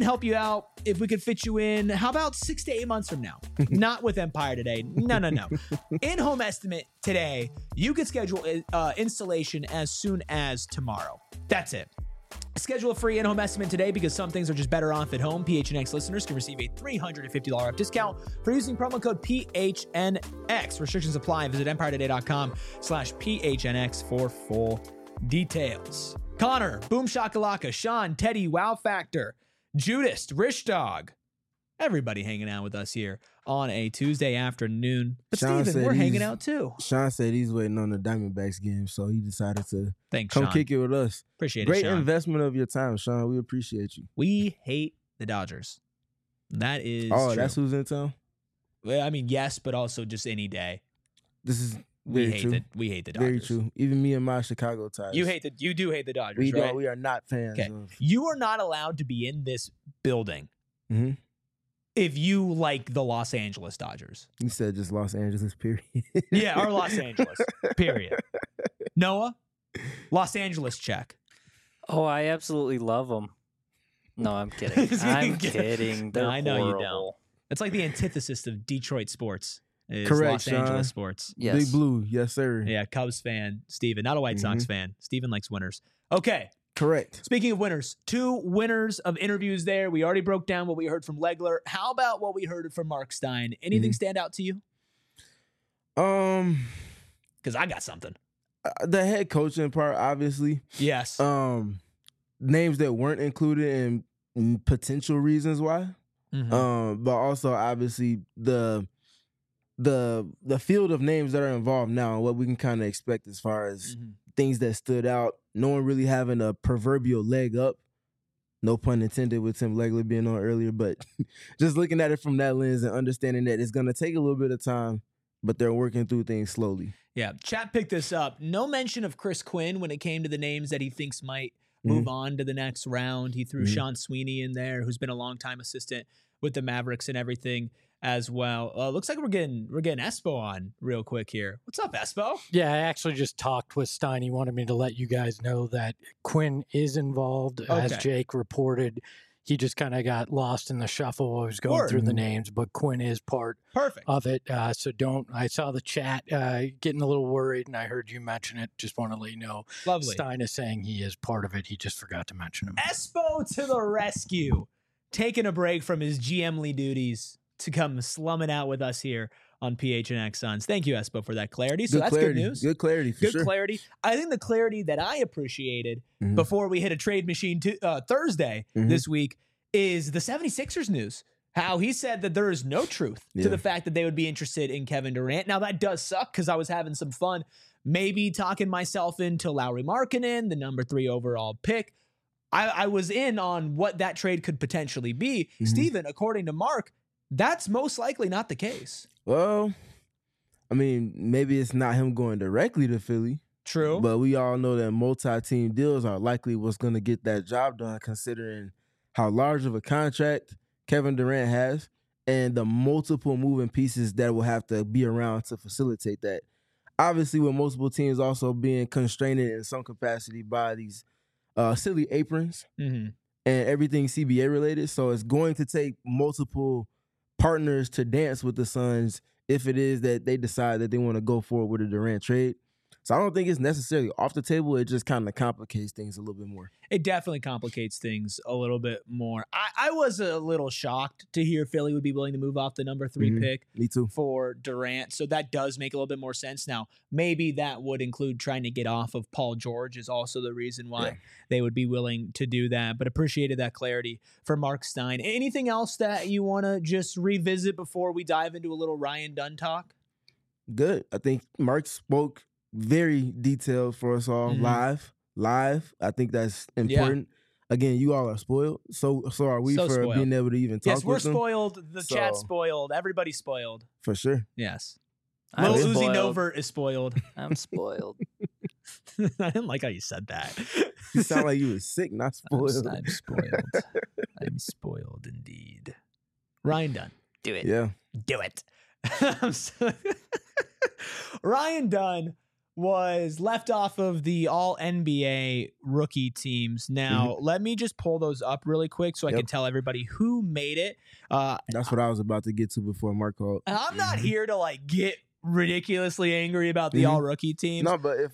S1: about if we could fit you in. How about 6 to 8 months from now? Not with Empire today. No. In-home estimate today, you could schedule installation as soon as tomorrow. That's it. Schedule a free in-home estimate today because some things are just better off at home. PHNX listeners can receive a $350 off discount for using promo code PHNX. Restrictions apply. Visit EmpireToday.com/PHNX for full details. Connor, Boom Shakalaka, Sean, Teddy, Wow Factor, Judas, Rich Dog, everybody hanging out with us here on a Tuesday afternoon. But
S2: Sean
S1: Steven,
S2: said
S1: we're
S2: he's-
S1: hanging out too.
S2: Sean said he's waiting on the Diamondbacks game, so he decided to
S1: Thanks,
S2: come
S1: Sean.
S2: kick it with us.
S1: Appreciate
S2: Great
S1: it, Sean.
S2: investment of your time, Sean. We appreciate you.
S1: We hate the Dodgers. That is
S2: Oh,
S1: true.
S2: that's who's in town?
S1: Well, I mean, yes, but also just any day.
S2: This is
S1: We
S2: very
S1: hate
S2: true.
S1: we hate the
S2: Very
S1: Dodgers.
S2: true. Even me and my Chicago ties.
S1: You do hate the Dodgers,
S2: We
S1: right?
S2: don't. We are not fans
S1: Okay.
S2: of.
S1: You are not allowed to be in this building
S2: Mhm.
S1: if you like the Los Angeles Dodgers.
S2: You said just Los Angeles, period.
S1: Yeah, or Los Angeles. Period. Noah, Los Angeles check.
S5: Oh, I absolutely love them. No, I'm kidding. I'm kidding. They're
S1: No, I know you don't.
S5: horrible.
S1: It's like the antithesis of Detroit sports. Is
S2: Correct,
S1: Los
S2: Sean.
S1: Angeles sports.
S5: Yes.
S2: Big Blue, yes sir.
S1: Yeah, Cubs fan, Steven. Not a White Sox fan. Steven likes winners. Okay.
S2: Correct.
S1: Speaking of winners, 2 winners of interviews there. We already broke down what we heard from Legler. How about what we heard from Mark Stein? Anything stand out to you? Because I got something.
S2: The head coaching part, obviously.
S1: Yes.
S2: Names that weren't included and potential reasons why.
S1: Mhm.
S2: But also obviously the field of names that are involved now and what we can kind of expect as far as
S1: Mhm.
S2: things that stood out. No one really having a proverbial leg up. No pun intended with Tim Legler being on earlier, but just looking at it from that lens and understanding that it's going to take a little bit of time, but they're working through things slowly.
S1: Yeah. Chat picked this up. No mention of Chris Quinn when it came to the names that he thinks might move on to the next round. He threw Sean Sweeney in there, who's been a longtime assistant with the Mavericks and everything as well. Looks like we're getting Espo on real quick here. What's up, Espo?
S6: Yeah, I actually just talked with Stein. He wanted me to let you guys know that Quinn is involved, as
S1: Okay.
S6: Jake reported. He just kind of got lost in the shuffle while he was going
S1: Word.
S6: through the names, but Quinn is part
S1: Perfect.
S6: of it. So don't. I saw the chat getting a little worried, and I heard you mention it. Just want to let you know.
S1: Lovely.
S6: Stein is saying he is part of it. He just forgot to mention him.
S1: Espo to the rescue, taking a break from his GM-ly duties to come slumming out with us here on PHNX Suns. Thank you, Espo, for that clarity. So that's
S2: clarity.
S1: good news.
S2: Good clarity for
S1: Good
S2: sure.
S1: clarity. I think the clarity that I appreciated
S2: Mhm.
S1: before we hit a trade machine Thursday
S2: Mhm.
S1: this week is the 76ers news. How he said that there is no truth to
S2: Yeah.
S1: the fact that they would be interested in Kevin Durant. Now, that does suck because I was having some fun maybe talking myself into Lauri Markkanen, the number 3 overall pick. I was in on what that trade could potentially be.
S2: Mhm.
S1: Steven, according to Mark, that's most likely not the case.
S2: Well, I mean, maybe it's not him going directly to Philly,
S1: True.
S2: but we all know that multi-team deals are likely what's going to get that job done, considering how large of a contract Kevin Durant has and the multiple moving pieces that will have to be around to facilitate that. Obviously, with multiple teams also being constrained in some capacity by these silly aprons
S1: Mhm.
S2: and everything CBA related. So it's going to take multiple partners to dance with the Suns if it is that they decide that they want to go forward with a Durant trade. So I don't think it's necessarily off the table. It just kind of complicates things a little bit more.
S1: It definitely complicates things a little bit more. I was a little shocked to hear Philly would be willing to move off the number 3
S2: Mhm.
S1: pick
S2: Me too.
S1: for Durant. So that does make a little bit more sense. Now, maybe that would include trying to get off of Paul George is also the reason why
S2: Yeah.
S1: they would be willing to do that. But appreciated that clarity for Mark Stein. Anything else that you want to just revisit before we dive into a little Ryan Dunn talk?
S2: Good. I think Mark spoke very detailed for us all
S1: Mhm.
S2: live. I think that's important. Again, you all are spoiled. So are we
S1: So
S2: for
S1: spoiled.
S2: being able to even talk
S1: Yes, we're
S2: with them.
S1: spoiled. The chat's
S2: So-
S1: spoiled. Everybody's spoiled.
S2: For sure.
S1: Yes.
S5: I'm
S1: Lil Uzi
S5: spoiled.
S1: Novert is spoiled.
S5: I'm spoiled.
S1: I didn't like how you said that.
S2: You sound like you was sick, not spoiled.
S1: I'm spoiled. I'm spoiled indeed. Ryan Dunn.
S5: Do it.
S2: Yeah.
S1: Do it. I'm so- Ryan Dunn was left off of the all NBA rookie teams. Now, let me just pull those up really quick so I can tell everybody who made it.
S2: That's what I was about to get to before Mark called.
S1: I'm not here to like get ridiculously angry about the all rookie teams.
S2: No, but if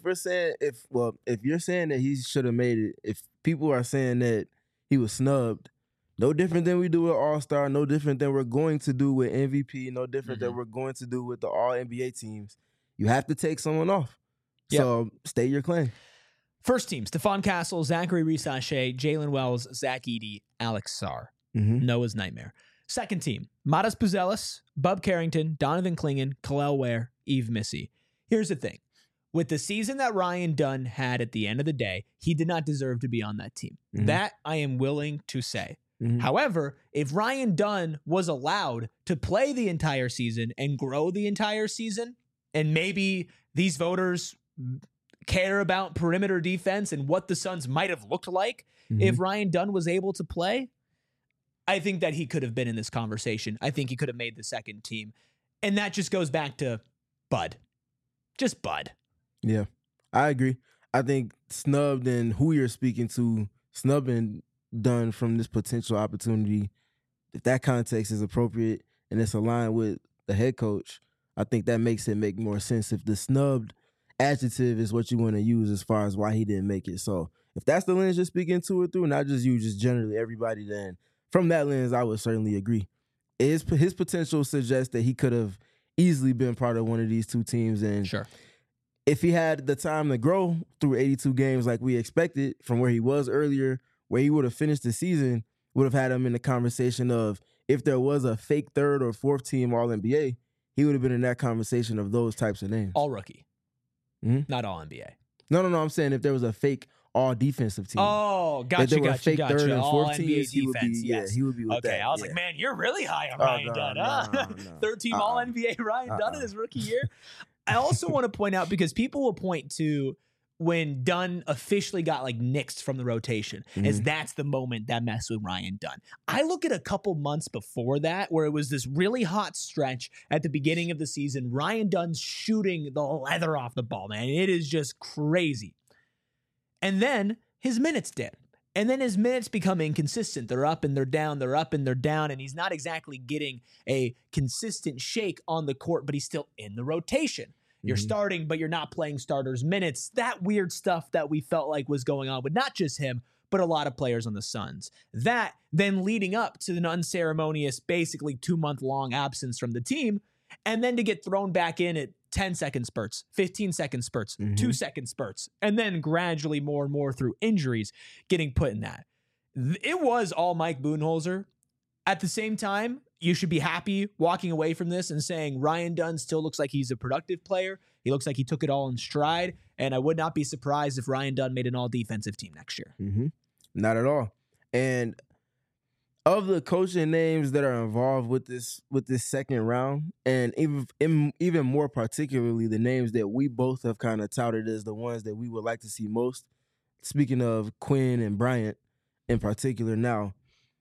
S2: you're saying that he should have made it, if people are saying that he was snubbed, no different than we do with All-Star, no different than we're going to do with MVP, no different than we're going to do with the all NBA teams, you have to take someone off.
S1: Yep.
S2: So state your claim.
S1: First team, Stephon Castle, Zachary Resache, Jalen Wells, Zach Edey, Alex Sarr, Noah's Nightmare. Second team, Matas Puzelis, Bub Carrington, Donovan Clingan, Kalel Ware, Eve Missy. Here's the thing. With the season that Ryan Dunn had at the end of the day, he did not deserve to be on that team. That I am willing to say. However, if Ryan Dunn was allowed to play the entire season and grow the entire season, and maybe these voters care about perimeter defense and what the Suns might have looked like if Ryan Dunn was able to play, I think that he could have been in this conversation. I think he could have made the second team. And that just goes back to Bud. Just Bud.
S2: Yeah, I agree. I think snubbed and who you're speaking to, snubbing Dunn from this potential opportunity, if that context is appropriate and it's aligned with the head coach, I think that makes it make more sense if the snubbed adjective is what you want to use as far as why he didn't make it. So if that's the lens you're speaking to it through, not just you, just generally everybody, then from that lens, I would certainly agree. His potential suggests that he could have easily been part of one of these two teams. And if he had the time to grow through 82 games like we expected from where he was earlier, where he would have finished the season, would have had him in the conversation of if there was a fake third or fourth team All-NBA, he would have been in that conversation of those types of names.
S1: All rookie. Not all NBA.
S2: No. I'm saying if there was a fake all defensive team.
S1: Oh, gotcha.
S2: Third and
S1: all
S2: fourth
S1: NBA
S2: teams, he would
S1: defense.
S2: be.
S1: Yes.
S2: Yeah, he would be with that.
S1: Okay, I was like, man, you're really high on Ryan Dunn, huh?
S2: No.
S1: Third team all NBA Ryan Dunn in his rookie year. I also want to point out, because people will point to when Dunn officially got like nixed from the rotation, as that's the moment that messed with Ryan Dunn. I look at a couple months before that where it was this really hot stretch at the beginning of the season. Ryan Dunn's shooting the leather off the ball, man. It is just crazy. And then his minutes dip. And then his minutes become inconsistent. They're up and they're down, they're up and they're down, and he's not exactly getting a consistent shake on the court, but he's still in the rotation. You're starting, but you're not playing starters minutes. That weird stuff that we felt like was going on with not just him, but a lot of players on the Suns. That then leading up to an unceremonious, basically 2-month-long absence from the team, and then to get thrown back in at 10-second spurts, 15-second spurts, 2-second spurts, and then gradually more and more through injuries getting put in that. It was all Mike Budenholzer. At the same time, you should be happy walking away from this and saying Ryan Dunn still looks like he's a productive player. He looks like he took it all in stride, and I would not be surprised if Ryan Dunn made an all-defensive team next year.
S2: Not at all. And of the coaching names that are involved with this second round, and even more particularly the names that we both have kind of touted as the ones that we would like to see most, speaking of Quinn and Bryant in particular now,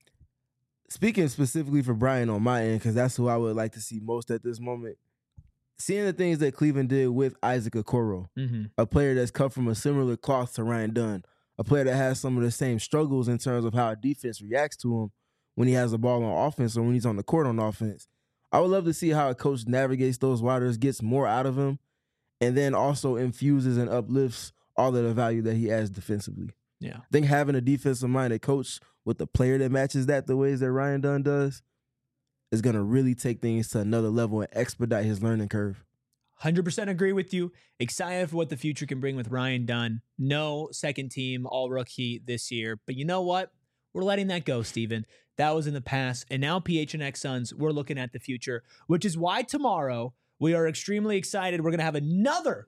S2: speaking specifically for Bryant on my end, because that's who I would like to see most at this moment, seeing the things that Cleveland did with Isaac Okoro, a player that's cut from a similar cloth to Ryan Dunn, a player that has some of the same struggles in terms of how a defense reacts to him when he has the ball on offense or when he's on the court on offense. I would love to see how a coach navigates those waters, gets more out of him, and then also infuses and uplifts all of the value that he adds defensively.
S1: Yeah.
S2: I think having a defensive-minded coach with a player that matches that the ways that Ryan Dunn does is going to really take things to another level and expedite his learning curve.
S1: 100% agree with you. Excited for what the future can bring with Ryan Dunn. No second team all-rookie this year. But you know what? We're letting that go, Steven. That was in the past. And now PHNX Suns, we're looking at the future, which is why tomorrow we are extremely excited. We're going to have another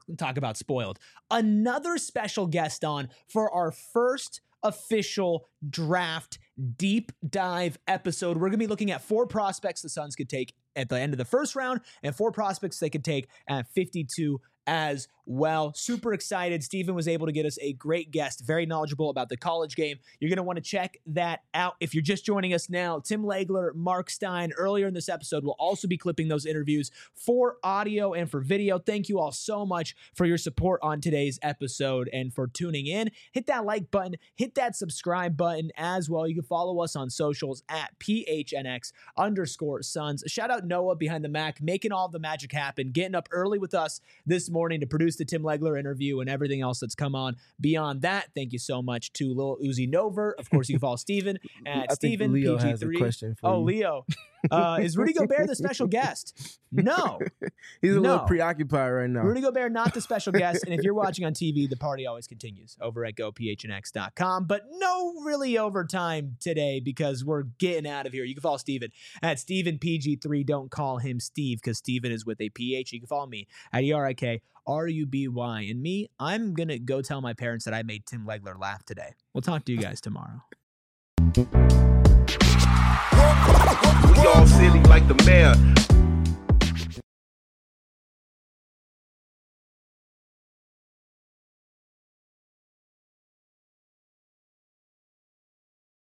S1: special guest on for our first official draft deep dive episode. We're going to be looking at 4 prospects the Suns could take at the end of the first round and 4 prospects they could take at 52 as well. Super excited. Steven was able to get us a great guest, very knowledgeable about the college game. You're going to want to check that out. If you're just joining us now, Tim Legler, Mark Stein, earlier in this episode, will also be clipping those interviews for audio and for video. Thank you all so much for your support on today's episode and for tuning in. Hit that like button, hit that subscribe button as well. You can follow us on socials at PHNX_Suns. Shout out Noah behind the Mac, making all the magic happen, getting up early with us this morning to produce the Tim Legler interview and everything else that's come on beyond that. Thank you so much to Lil Uzi Nover. Of course, you can follow Steven at Steven
S2: Leo
S1: PG3.
S2: has a question for you.
S1: Leo. Is Rudy Gobert the special guest? No.
S2: He's a little preoccupied right now.
S1: Rudy Gobert, not the special guest. And if you're watching on TV, the party always continues over at gophnx.com. But no really overtime today because we're getting out of here. You can follow Steven at StevenPG3. Don't call him Steve because Steven is with a PH. You can follow me at ERIKRUBY. And me, I'm going to go tell my parents that I made Tim Legler laugh today. We'll talk to you guys tomorrow.
S7: We all silly like the mayor.